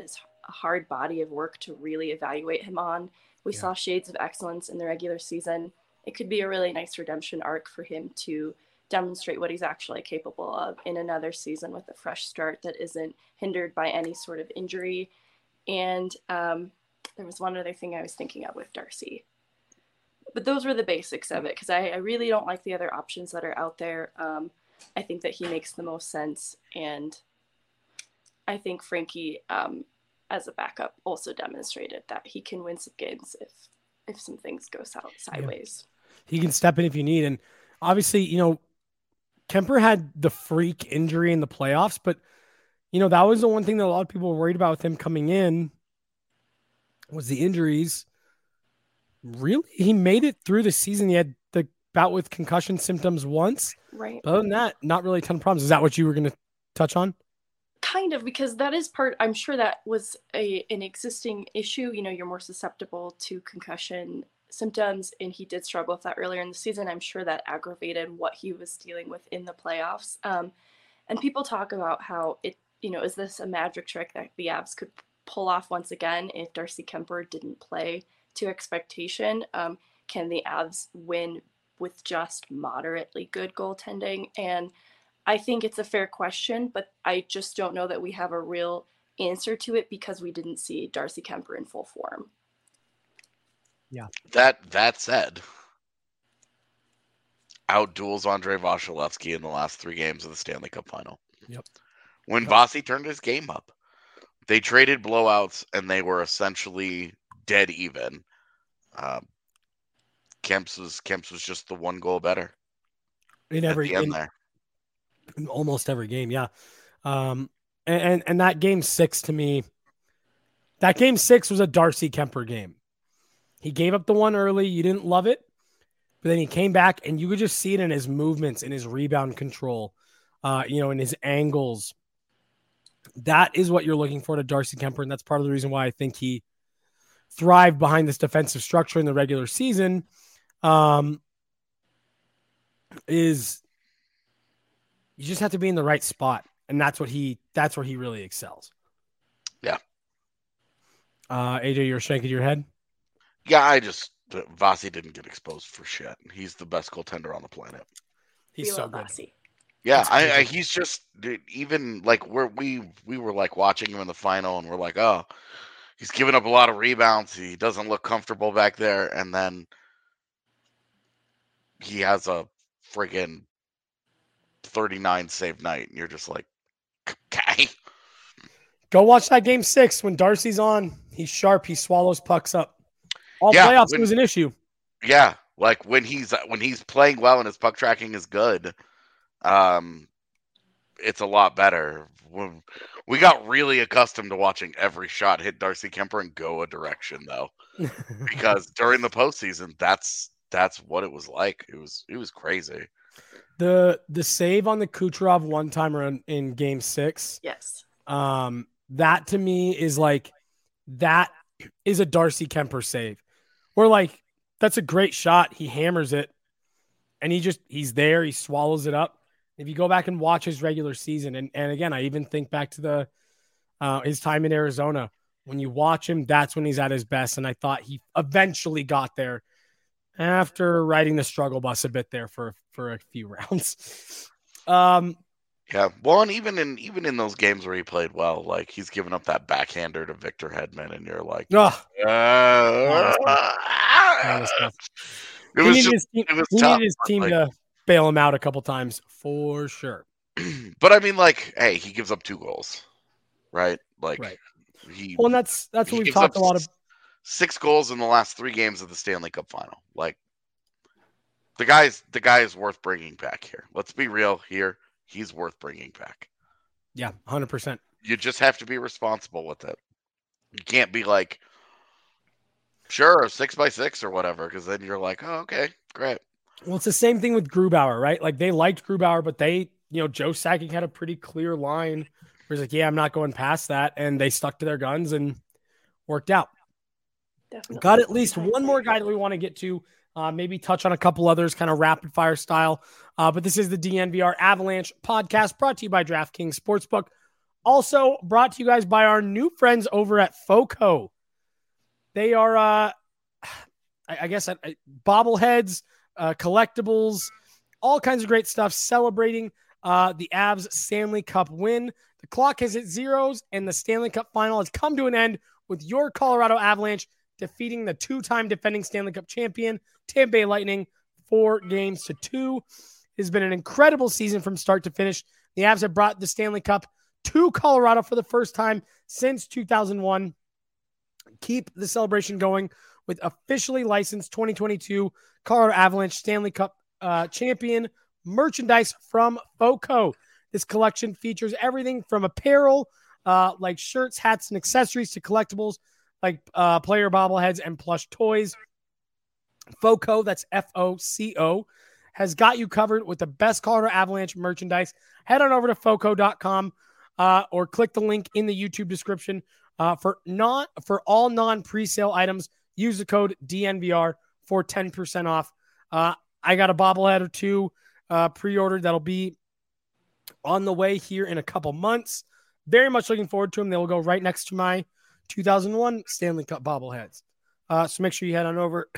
a hard body of work to really evaluate him on. We saw shades of excellence in the regular season. It could be a really nice redemption arc for him to demonstrate what he's actually capable of in another season with a fresh start that isn't hindered by any sort of injury. And there was one other thing I was thinking of with Darcy. But those were the basics of it, because I really don't like the other options that are out there. I think that he makes the most sense. And I think Frankie, as a backup, also demonstrated that he can win some games if some things go sideways. Yeah. He can step in if you need. And obviously, Kuemper had the freak injury in the playoffs, but, that was the one thing that a lot of people were worried about with him coming in was the injuries. Really? He made it through the season. He had the bout with concussion symptoms once. Right. But other than that, not really a ton of problems. Is that what you were going to touch on? Kind of, because that is I'm sure that was an existing issue. You're more susceptible to concussion symptoms, and he did struggle with that earlier in the season. I'm sure that aggravated what he was dealing with in the playoffs. And people talk about how is this a magic trick that the Avs could pull off once again if Darcy Kuemper didn't play to expectation? Can the Avs win with just moderately good goaltending? And I think it's a fair question, but I just don't know that we have a real answer to it because we didn't see Darcy Kuemper in full form. Yeah. That said, outduels Andrei Vasilevsky in the last 3 games of the Stanley Cup Final. Yep. When Vasi turned his game up, they traded blowouts and they were essentially dead even. Kemps was just the 1 goal better in almost every game. Yeah. And that game 6 to me, that game 6 was a Darcy Kuemper game. He gave up the one early. You didn't love it, but then he came back and you could just see it in his movements, in his rebound control, in his angles. That is what you're looking for to Darcy Kuemper. And that's part of the reason why I think he thrived behind this defensive structure in the regular season. Is you just have to be in the right spot. And that's where he really excels. Yeah. AJ, you're shaking your head. Yeah, Vasi didn't get exposed for shit. He's the best goaltender on the planet. He's so good. Vasi. Yeah, he's just even like we were like watching him in the final, and we're like, oh, he's giving up a lot of rebounds. He doesn't look comfortable back there, and then he has a friggin' 39 save night, and you're just like, okay. Go watch that game 6 when Darcy's on. He's sharp. He swallows pucks up. Playoffs, it was an issue. Yeah, like when he's playing well and his puck tracking is good, it's a lot better. We got really accustomed to watching every shot hit Darcy Kuemper and go a direction, though, because during the postseason, that's what it was like. It was crazy. The save on the Kucherov one-timer in Game 6. Yes. That to me is like that is a Darcy Kuemper save. Where like that's a great shot. He hammers it, and he's there. He swallows it up. If you go back and watch his regular season, and again, I even think back to his time in Arizona. When you watch him, that's when he's at his best. And I thought he eventually got there after riding the struggle bus a bit there for a few rounds. Yeah, well, and even in those games where he played well, like he's given up that backhander to Victor Hedman, and you're like, he needed his team to bail him out a couple times for sure. But I mean, like, hey, he gives up 2 goals, right? Like, right. And that's what we've talked a lot of. 6 goals in the last 3 games of the Stanley Cup Final. Like, the guy is worth bringing back here. Let's be real here. He's worth bringing back. Yeah, 100%. You just have to be responsible with it. You can't be like, sure, 6x6 or whatever, because then you're like, oh, okay, great. Well, it's the same thing with Grubauer, right? Like they liked Grubauer, but Joe Sakic had a pretty clear line where he's like, yeah, I'm not going past that. And they stuck to their guns and worked out. Definitely. Got at least one more guy that we want to get to. Maybe touch on a couple others, kind of rapid fire style. But this is the DNVR Avalanche podcast brought to you by DraftKings Sportsbook. Also brought to you guys by our new friends over at FOCO. They are, I guess, bobbleheads, collectibles, all kinds of great stuff celebrating the Avs Stanley Cup win. The clock has hit zeros, and the Stanley Cup final has come to an end with your Colorado Avalanche defeating the two-time defending Stanley Cup champion, Tampa Bay Lightning, 4-2. It has been an incredible season from start to finish. The Avs have brought the Stanley Cup to Colorado for the first time since 2001. Keep the celebration going with officially licensed 2022 Colorado Avalanche Stanley Cup champion merchandise from FOCO. This collection features everything from apparel, like shirts, hats, and accessories to collectibles like player bobbleheads and plush toys. FOCO, that's FOCO, has got you covered with the best Colorado Avalanche merchandise. Head on over to FOCO.com or click the link in the YouTube description. For all non-presale items, use the code DNVR for 10% off. I got a bobblehead or two pre-ordered that'll be on the way here in a couple months. Very much looking forward to them. They will go right next to my 2001 Stanley Cup bobbleheads. So make sure you head on over.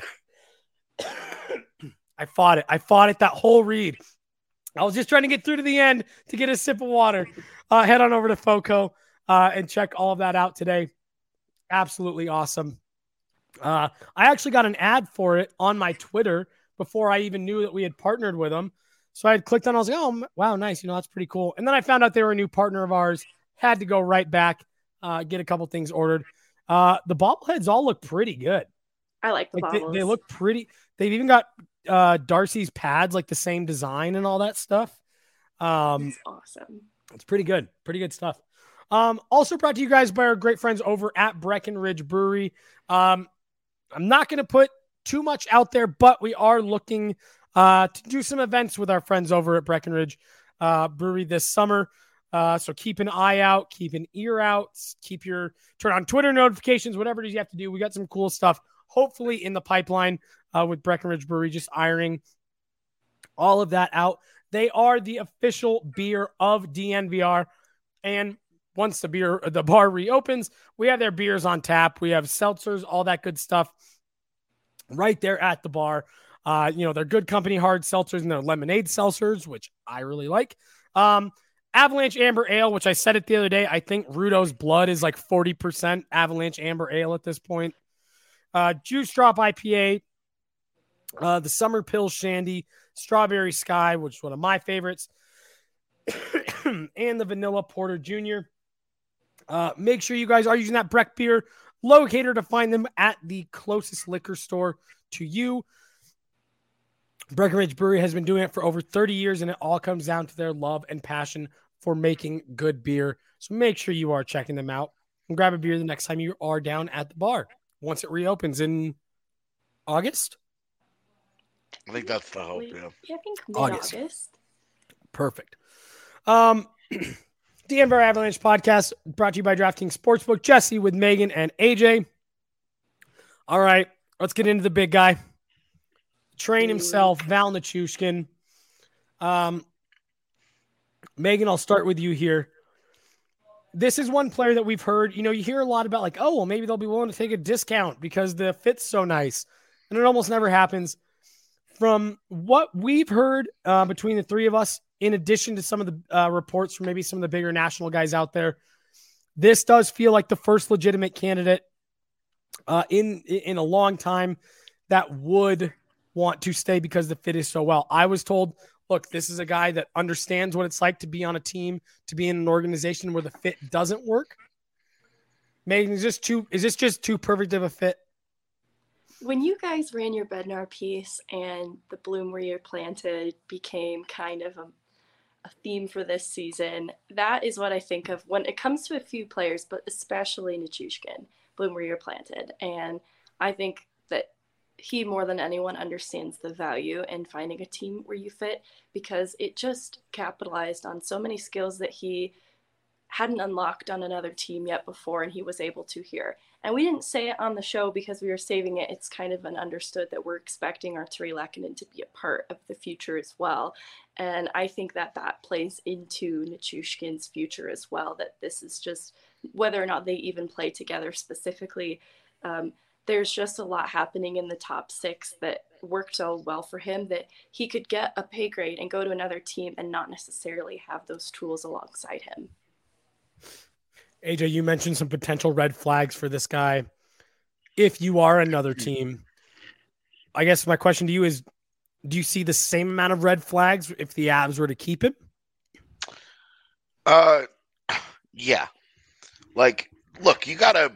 I fought it that whole read. I was just trying to get through to the end to get a sip of water. Head on over to FOCO and check all of that out today. Absolutely awesome. I actually got an ad for it on my Twitter before I even knew that we had partnered with them. So I had clicked on it. I was like, oh, wow, nice. That's pretty cool. And then I found out they were a new partner of ours. Had to go right back, get a couple things ordered. The bobbleheads all look pretty good. I like the bobbles. They look pretty. They've even got Darcy's pads, like the same design and all that stuff. That's awesome. It's pretty good. Pretty good stuff. Also brought to you guys by our great friends over at Breckenridge Brewery. I'm not going to put too much out there, but we are looking to do some events with our friends over at Breckenridge Brewery this summer. So keep an eye out, keep an ear out, turn on Twitter notifications, whatever it is you have to do. We got some cool stuff, hopefully in the pipeline with Breckenridge Brewery, just ironing all of that out. They are the official beer of DNVR. And once the bar reopens, we have their beers on tap. We have seltzers, all that good stuff right there at the bar. They're Good Company hard seltzers and their lemonade seltzers, which I really like. Avalanche Amber Ale, which I said it the other day. I think Rudo's Blood is like 40% Avalanche Amber Ale at this point. Juice Drop IPA, the Summer Pill Shandy, Strawberry Sky, which is one of my favorites, and the Vanilla Porter Jr. Make sure you guys are using that Breck beer locator to find them at the closest liquor store to you. Breckenridge Brewery has been doing it for over 30 years, and it all comes down to their love and passion for making good beer. So make sure you are checking them out and grab a beer the next time you are down at the bar once it reopens in August. I think that's the hope, yeah. Yeah, I think mid-August. Perfect. The Denver Avalanche podcast brought to you by DraftKings Sportsbook. Jesse with Megan and AJ. All right, let's get into the big guy. Train himself, Val Nichushkin. Megan, I'll start with you here. This is one player that we've heard, you hear a lot about maybe they'll be willing to take a discount because the fit's so nice. And it almost never happens. From what we've heard between the three of us, in addition to some of the reports from maybe some of the bigger national guys out there, this does feel like the first legitimate candidate in a long time that would want to stay because the fit is so well. I was told, look, this is a guy that understands what it's like to be on a team, to be in an organization where the fit doesn't work. Megan, is this just too perfect of a fit? When you guys ran your Bednar piece and the Bloom Where You're Planted became kind of a theme for this season, that is what I think of when it comes to a few players, but especially Nichushkin, Bloom Where You're Planted. And I think that he more than anyone understands the value in finding a team where you fit, because it just capitalized on so many skills that he hadn't unlocked on another team yet before, and he was able to here. And we didn't say it on the show because we were saving it. It's kind of an understood that we're expecting Artturi Lehkonen to be a part of the future as well. And I think that that plays into Nichushkin's future as well, that this is just, whether or not they even play together specifically, there's just a lot happening in the top six that worked so well for him that he could get a pay grade and go to another team and not necessarily have those tools alongside him. AJ, you mentioned some potential red flags for this guy. If you are another team, I guess my question to you is, do you see the same amount of red flags if the Avs were to keep him? Yeah. Like, look, you gotta.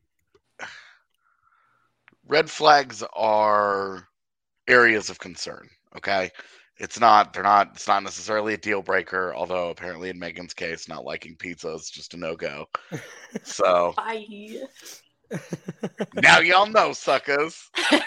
Red flags are areas of concern. Okay, it's not necessarily a deal breaker. Although apparently in Megan's case, not liking pizza is just a no go. So Bye. Now y'all know, suckers.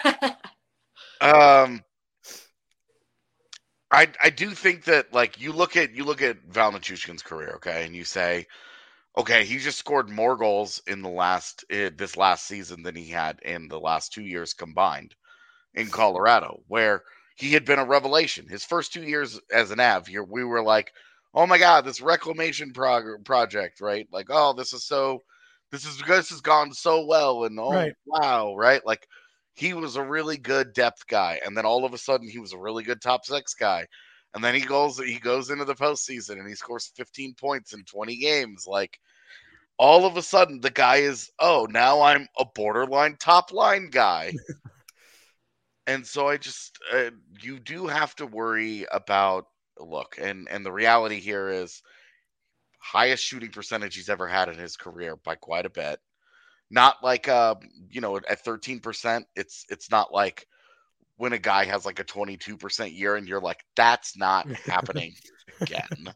I do think that, like, you look at Val Nichushkin's career, okay, and you say, okay, he just scored more goals in this last season than he had in the last 2 years combined in Colorado, where he had been a revelation. His first 2 years as an Av, we were like, oh my God, this reclamation project, right? Like, oh, this has gone so well, and oh, right. Wow, right? Like, he was a really good depth guy, and then all of a sudden he was a really good top six guy. And then he goes into the postseason and he scores 15 points in 20 games. Like, all of a sudden the guy is, oh, now I'm a borderline top line guy. And so I just, you do have to worry about, look, and the reality here is highest shooting percentage he's ever had in his career by quite a bit. Not like, at 13%, it's not like when a guy has like a 22% year and you're like, that's not happening again.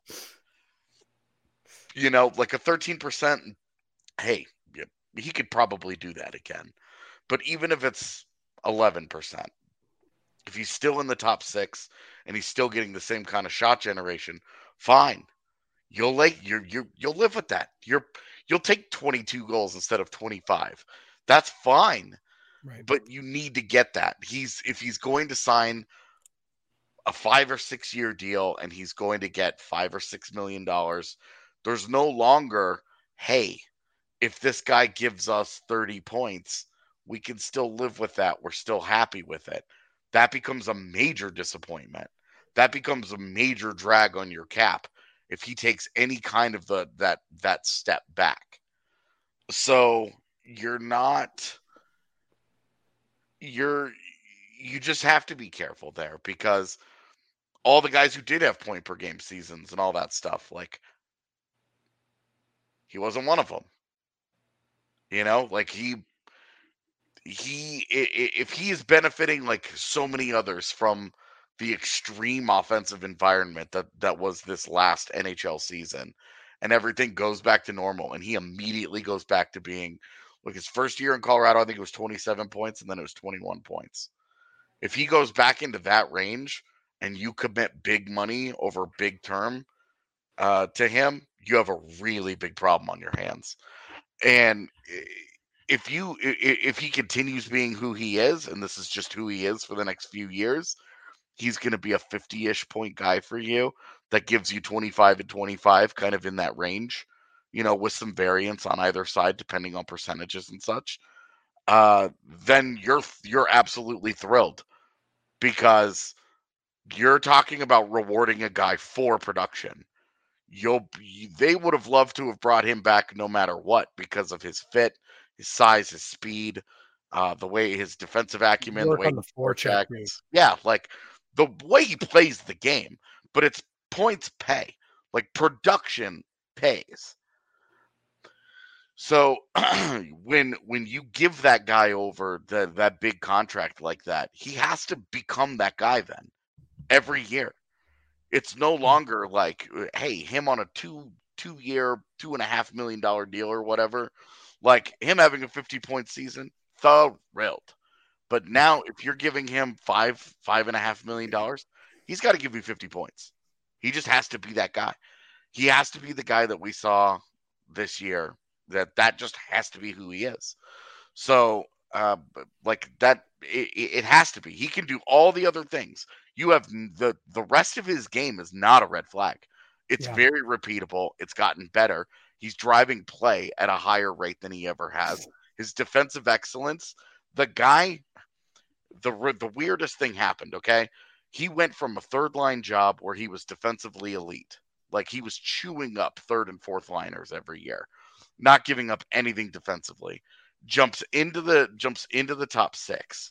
Like a 13%, hey, he could probably do that again. But even if it's 11%, if he's still in the top six and he's still getting the same kind of shot generation, fine. You'll live with that. You'll take 22 goals instead of 25. That's fine. Right. But you need to get that. If he's going to sign a 5 or 6 year deal and he's going to get $5 or $6 million, there's no longer, hey, if this guy gives us 30 points, we can still live with that. We're still happy with it. That becomes a major disappointment. That becomes a major drag on your cap if he takes any kind of that step back. So you just have to be careful there, because all the guys who did have point per game seasons and all that stuff, like, he wasn't one of them. Like, if he is benefiting like so many others from the extreme offensive environment that was this last NHL season, and everything goes back to normal, and he immediately goes back to being, like, his first year in Colorado, I think it was 27 points, and then it was 21 points. If he goes back into that range and you commit big money over big term to him, you have a really big problem on your hands. And if he continues being who he is, and this is just who he is for the next few years, he's going to be a 50-ish point guy for you that gives you 25 and 25, kind of in that range, with some variance on either side depending on percentages and such. Then you're absolutely thrilled, because you're talking about rewarding a guy for production. They would have loved to have brought him back no matter what, because of his fit, his size, his speed, the way his defensive acumen, the way the forecheck. Yeah, like the way he plays the game. But it's points pay, like production pays. So when you give that guy over that big contract like that, he has to become that guy then every year. It's no longer like, hey, him on a two-year, $2.5 million deal or whatever, like him having a 50-point season, thrilled. But now if you're giving him $5.5 million, he's got to give you 50 points. He just has to be that guy. He has to be the guy that we saw this year. That just has to be who he is. So, like that, it has to be. He can do all the other things. You have the rest of his game is not a red flag. It's very repeatable. It's gotten better. He's driving play at a higher rate than he ever has. His defensive excellence, the guy, the weirdest thing happened, okay? He went from a third line job where he was defensively elite. Like he was chewing up third and fourth liners every year, not giving up anything defensively. Jumps into the top 6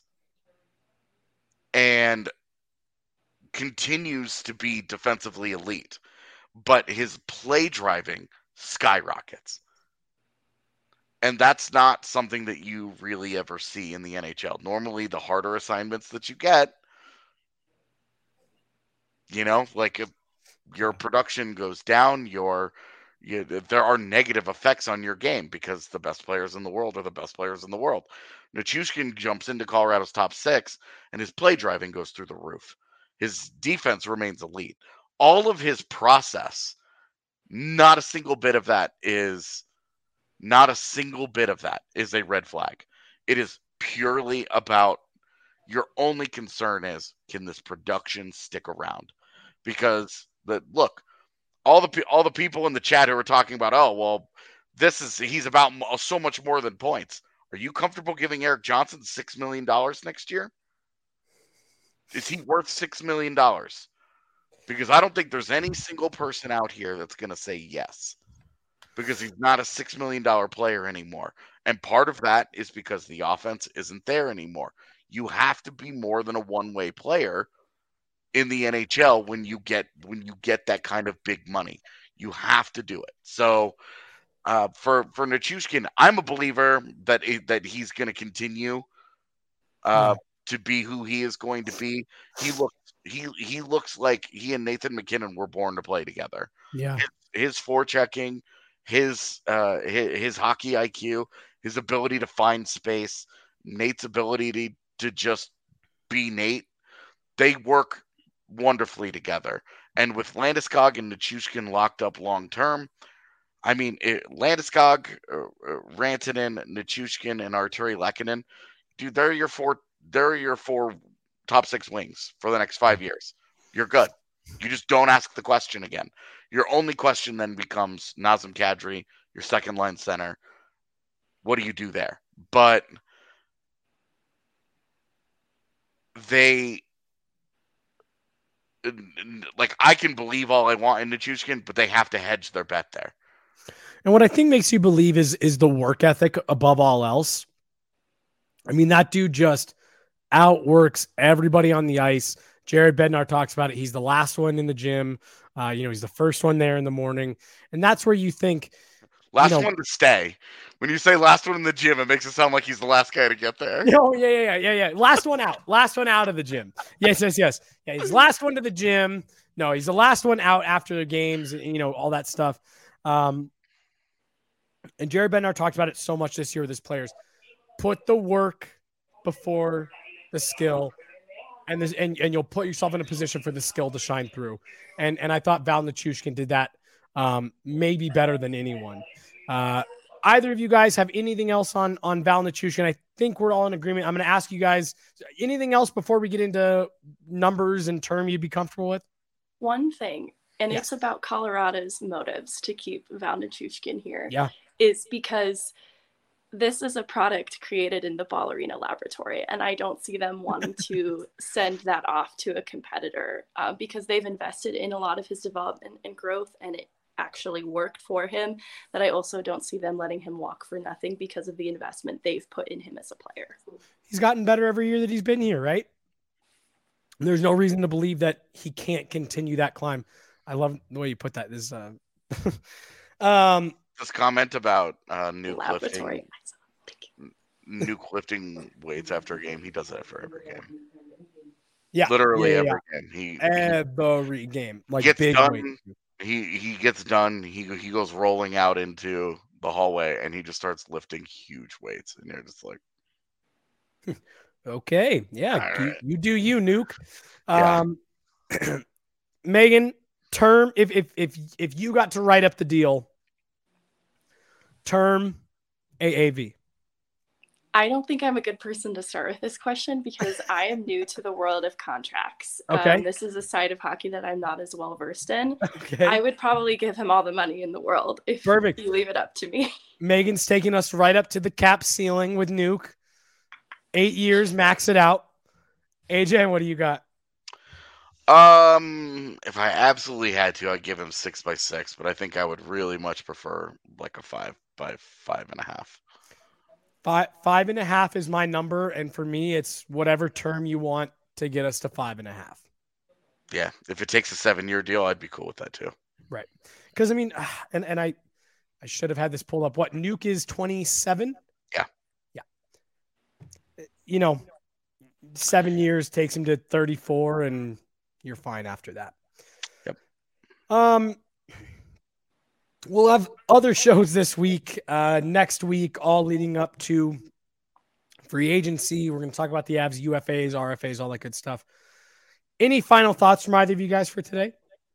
and continues to be defensively elite, but his play driving skyrockets. And that's not something that you really ever see in the NHL. Normally, the harder assignments that you get, like if your production goes down, there are negative effects on your game because the best players in the world are the best players in the world. Nichushkin jumps into Colorado's top 6, and his play driving goes through the roof. His defense remains elite. All of his process, not a single bit of that is a red flag. It is purely about your only concern is, can this production stick around? Because look, all the people in the chat who are talking about, oh well, he's about so much more than points. Are you comfortable giving Erik Johnson $6 million next year? Is he worth $6 million? Because I don't think there's any single person out here that's going to say yes. Because he's not a $6 million player anymore. And part of that is because the offense isn't there anymore. You have to be more than a one-way player in the NHL when you get that kind of big money. You have to do it. So for Nichushkin, I'm a believer that he's going to continue to be who he is going to be. He looks like he and Nathan MacKinnon were born to play together. Yeah, his forechecking, his hockey IQ, his ability to find space, Nate's ability to just be Nate. They work wonderfully together. And with Landeskog and Nichushkin locked up long term, I mean, Landeskog, Rantanen, Nichushkin, and Arturi Lehkonen, dude, they're your four top 6 wings for the next 5 years. You're good. You just don't ask the question again. Your only question then becomes Nazem Kadri, your second line center. What do you do there? But I can believe all I want in Nichushkin, but they have to hedge their bet there. And what I think makes you believe is the work ethic above all else. I mean, that dude just outworks everybody on the ice. Jared Bednar talks about it. He's the last one in the gym. He's the first one there in the morning. And that's where you think... one to stay. When you say last one in the gym, it makes it sound like he's the last guy to get there. Oh, yeah. Last one out. Last one out of the gym. Yes. Yeah, he's the last one to the gym. No, he's the last one out after the games, all that stuff. And Jared Bednar talked about it so much this year with his players. Put the work before the skill, and you'll put yourself in a position for the skill to shine through. And I thought Val Nichushkin did that maybe better than anyone. Either of you guys have anything else on Val Nichushkin? I think we're all in agreement. I'm going to ask you guys anything else before we get into numbers and term you'd be comfortable with. One thing, and it's about Colorado's motives to keep Val Nichushkin here. Yeah. Is because this is a product created in the Ball Arena laboratory, and I don't see them wanting to send that off to a competitor because they've invested in a lot of his development and growth, and it actually worked for him. But I also don't see them letting him walk for nothing because of the investment they've put in him as a player. He's gotten better every year that he's been here, right? There's no reason to believe that he can't continue that climb. I love the way you put that. This This comment about Nuke lifting weights after a game. He does that for every game. Yeah, literally every game. Every game, like gets big done. weight. He gets done. He goes rolling out into the hallway, and he just starts lifting huge weights, and you're just like, okay, yeah, right. you do you, Nuke. Yeah. Megan, term. If you got to write up the deal. Term AAV. I don't think I'm a good person to start with this question because I am new to the world of contracts. Okay. This is a side of hockey that I'm not as well versed in. Okay. I would probably give him all the money in the world if Perfect. you leave it up to me. Megan's taking us right up to the cap ceiling with Nuke. 8 years, max it out. AJ, what do you got? If I absolutely had to, I'd give him 6x6, but I think I would really much prefer like a 5x5.5. 5.5 is my number, and for me, it's whatever term you want to get us to 5.5. Yeah, if it takes a 7-year deal, I'd be cool with that too. Right, because I mean, and I should have had this pulled up. What Nuke is 27? Yeah. 7 years takes him to 34, and you're fine after that. Yep. We'll have other shows this week, next week, all leading up to free agency. We're going to talk about the Avs, UFAs, RFAs, all that good stuff. Any final thoughts from either of you guys for today?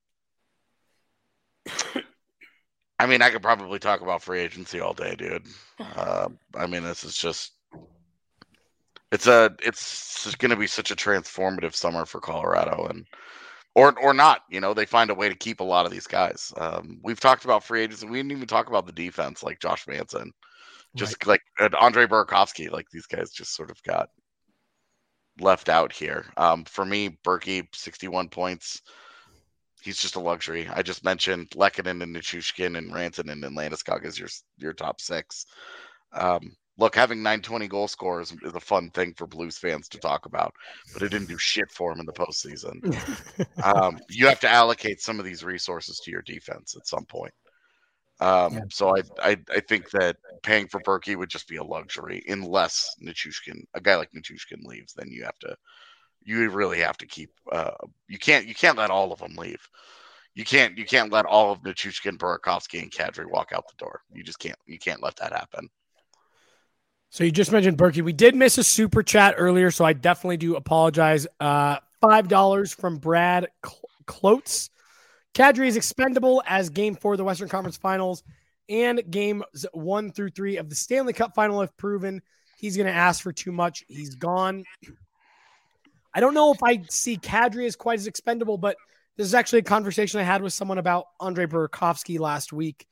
I mean, I could probably talk about free agency all day, dude. I mean, this is just it's going to be such a transformative summer for Colorado, and or not. They find a way to keep a lot of these guys. We've talked about free agents, and we didn't even talk about the defense, like Josh Manson, just like Andre Burakovsky. Like these guys just sort of got left out here. For me, Berkey, 61 points. He's just a luxury. I just mentioned Lehkonen and Nichushkin and Rantanen and Landeskog as your top 6. Look, having 920 goal scorers is a fun thing for Blues fans to talk about, but it didn't do shit for him in the postseason. You have to allocate some of these resources to your defense at some point. So I think that paying for Berkey would just be a luxury unless a guy like Nichushkin leaves. Then you really have to keep. You can't let all of them leave. You can't let all of Nichushkin, Burakovsky, and Kadri walk out the door. You just can't. You can't let that happen. So you just mentioned Berkey. We did miss a super chat earlier, so I definitely do apologize. $5 from Brad Klotz. Kadri is expendable as Game 4 of the Western Conference Finals and Games 1 through 3 of the Stanley Cup Final have proven. He's going to ask for too much. He's gone. I don't know if I see Kadri as quite as expendable, but this is actually a conversation I had with someone about Andre Burakovsky last week.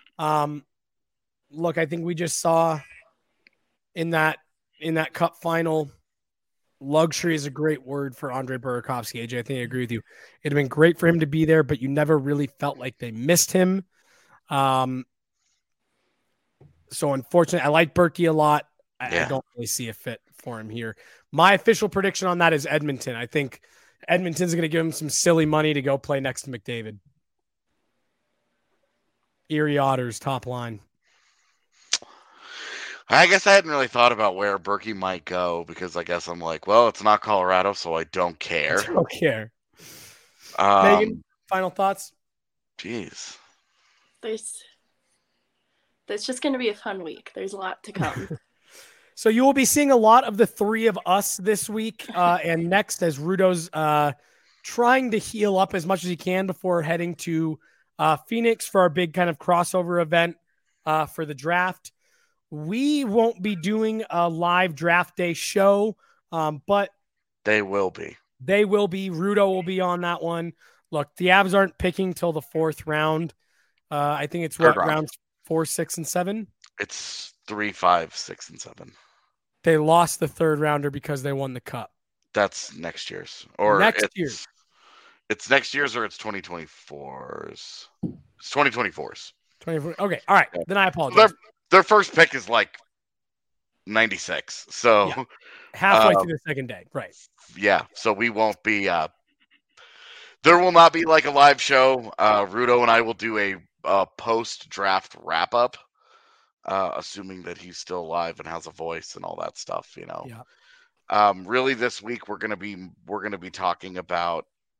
Look, I think we just saw in that cup final, luxury is a great word for Andre Burakovsky. AJ, I think I agree with you. It'd have been great for him to be there, but you never really felt like they missed him. So unfortunately, I like Berkey a lot. I don't really see a fit for him here. My official prediction on that is Edmonton. I think Edmonton's going to give him some silly money to go play next to McDavid. Erie Otters, top line. I guess I hadn't really thought about where Berkey might go because I guess I'm like, well, it's not Colorado, so I don't care. I don't care. Megan, final thoughts? Jeez. There's just going to be a fun week. There's a lot to come. So you will be seeing a lot of the three of us this week and next as Rudo's trying to heal up as much as he can before heading to Phoenix for our big kind of crossover event for the draft. We won't be doing a live draft day show, but they will be. They will be. Rudo will be on that one. Look, the Avs aren't picking till the 4th round. I think it's rounds 4, 6, and 7. It's 3, 5, 6, and 7. They lost the 3rd rounder because they won the cup. That's next year's. Or next year. It's next year's or it's 2024's. It's 2024's. 24. Okay. All right. Then I apologize. Their first pick is like 96. So halfway through the second day. Right. Yeah. So we won't be there will not be like a live show. Rudo and I will do a post-draft wrap-up. Assuming that he's still alive and has a voice and all that stuff, Yeah. Really, this week we're gonna be talking about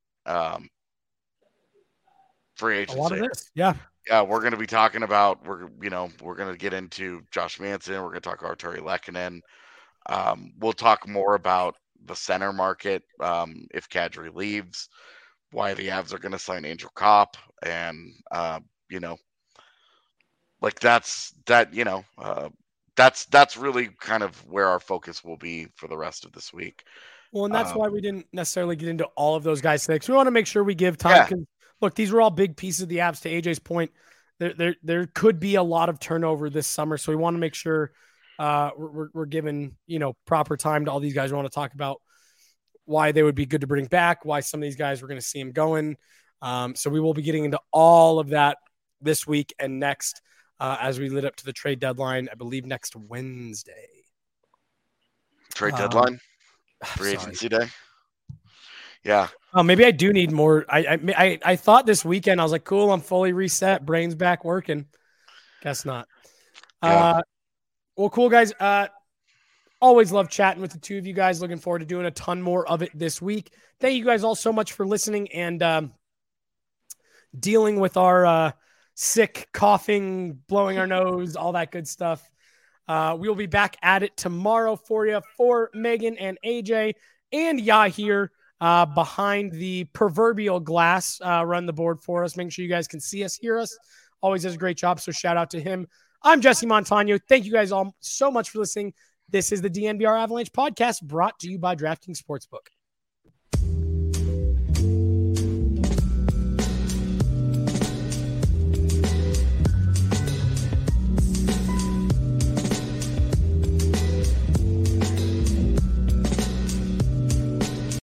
free agency. A lot of this, yeah. Yeah, we're gonna be talking about we're gonna get into Josh Manson. We're gonna talk Artturi Lehkonen. We'll talk more about the center market if Kadri leaves, why the Avs are gonna sign Angel Kopp, and like that's really kind of where our focus will be for the rest of this week. Well, and that's why we didn't necessarily get into all of those guys today, because we want to make sure we give time. Because look, these were all big pieces of the Avs. To AJ's point, there could be a lot of turnover this summer, so we want to make sure we're giving proper time to all these guys. We want to talk about why they would be good to bring back, why some of these guys we're going to see them going. So we will be getting into all of that this week and next as we lead up to the trade deadline, I believe next Wednesday. Trade deadline? Free agency day? Yeah. Oh, maybe I do need more. I thought this weekend, I was like, cool, I'm fully reset, brain's back working. Guess not. Yeah. Well, cool, guys. Always love chatting with the two of you guys. Looking forward to doing a ton more of it this week. Thank you guys all so much for listening and dealing with our sick, coughing, blowing our nose, all that good stuff. We'll be back at it tomorrow for you, for Megan and AJ and Yahir behind the proverbial glass, run the board for us. Make sure you guys can see us, hear us. Always does a great job, so shout out to him. I'm Jesse Montano. Thank you guys all so much for listening. This is the DNVR Avalanche podcast brought to you by DraftKings Sportsbook.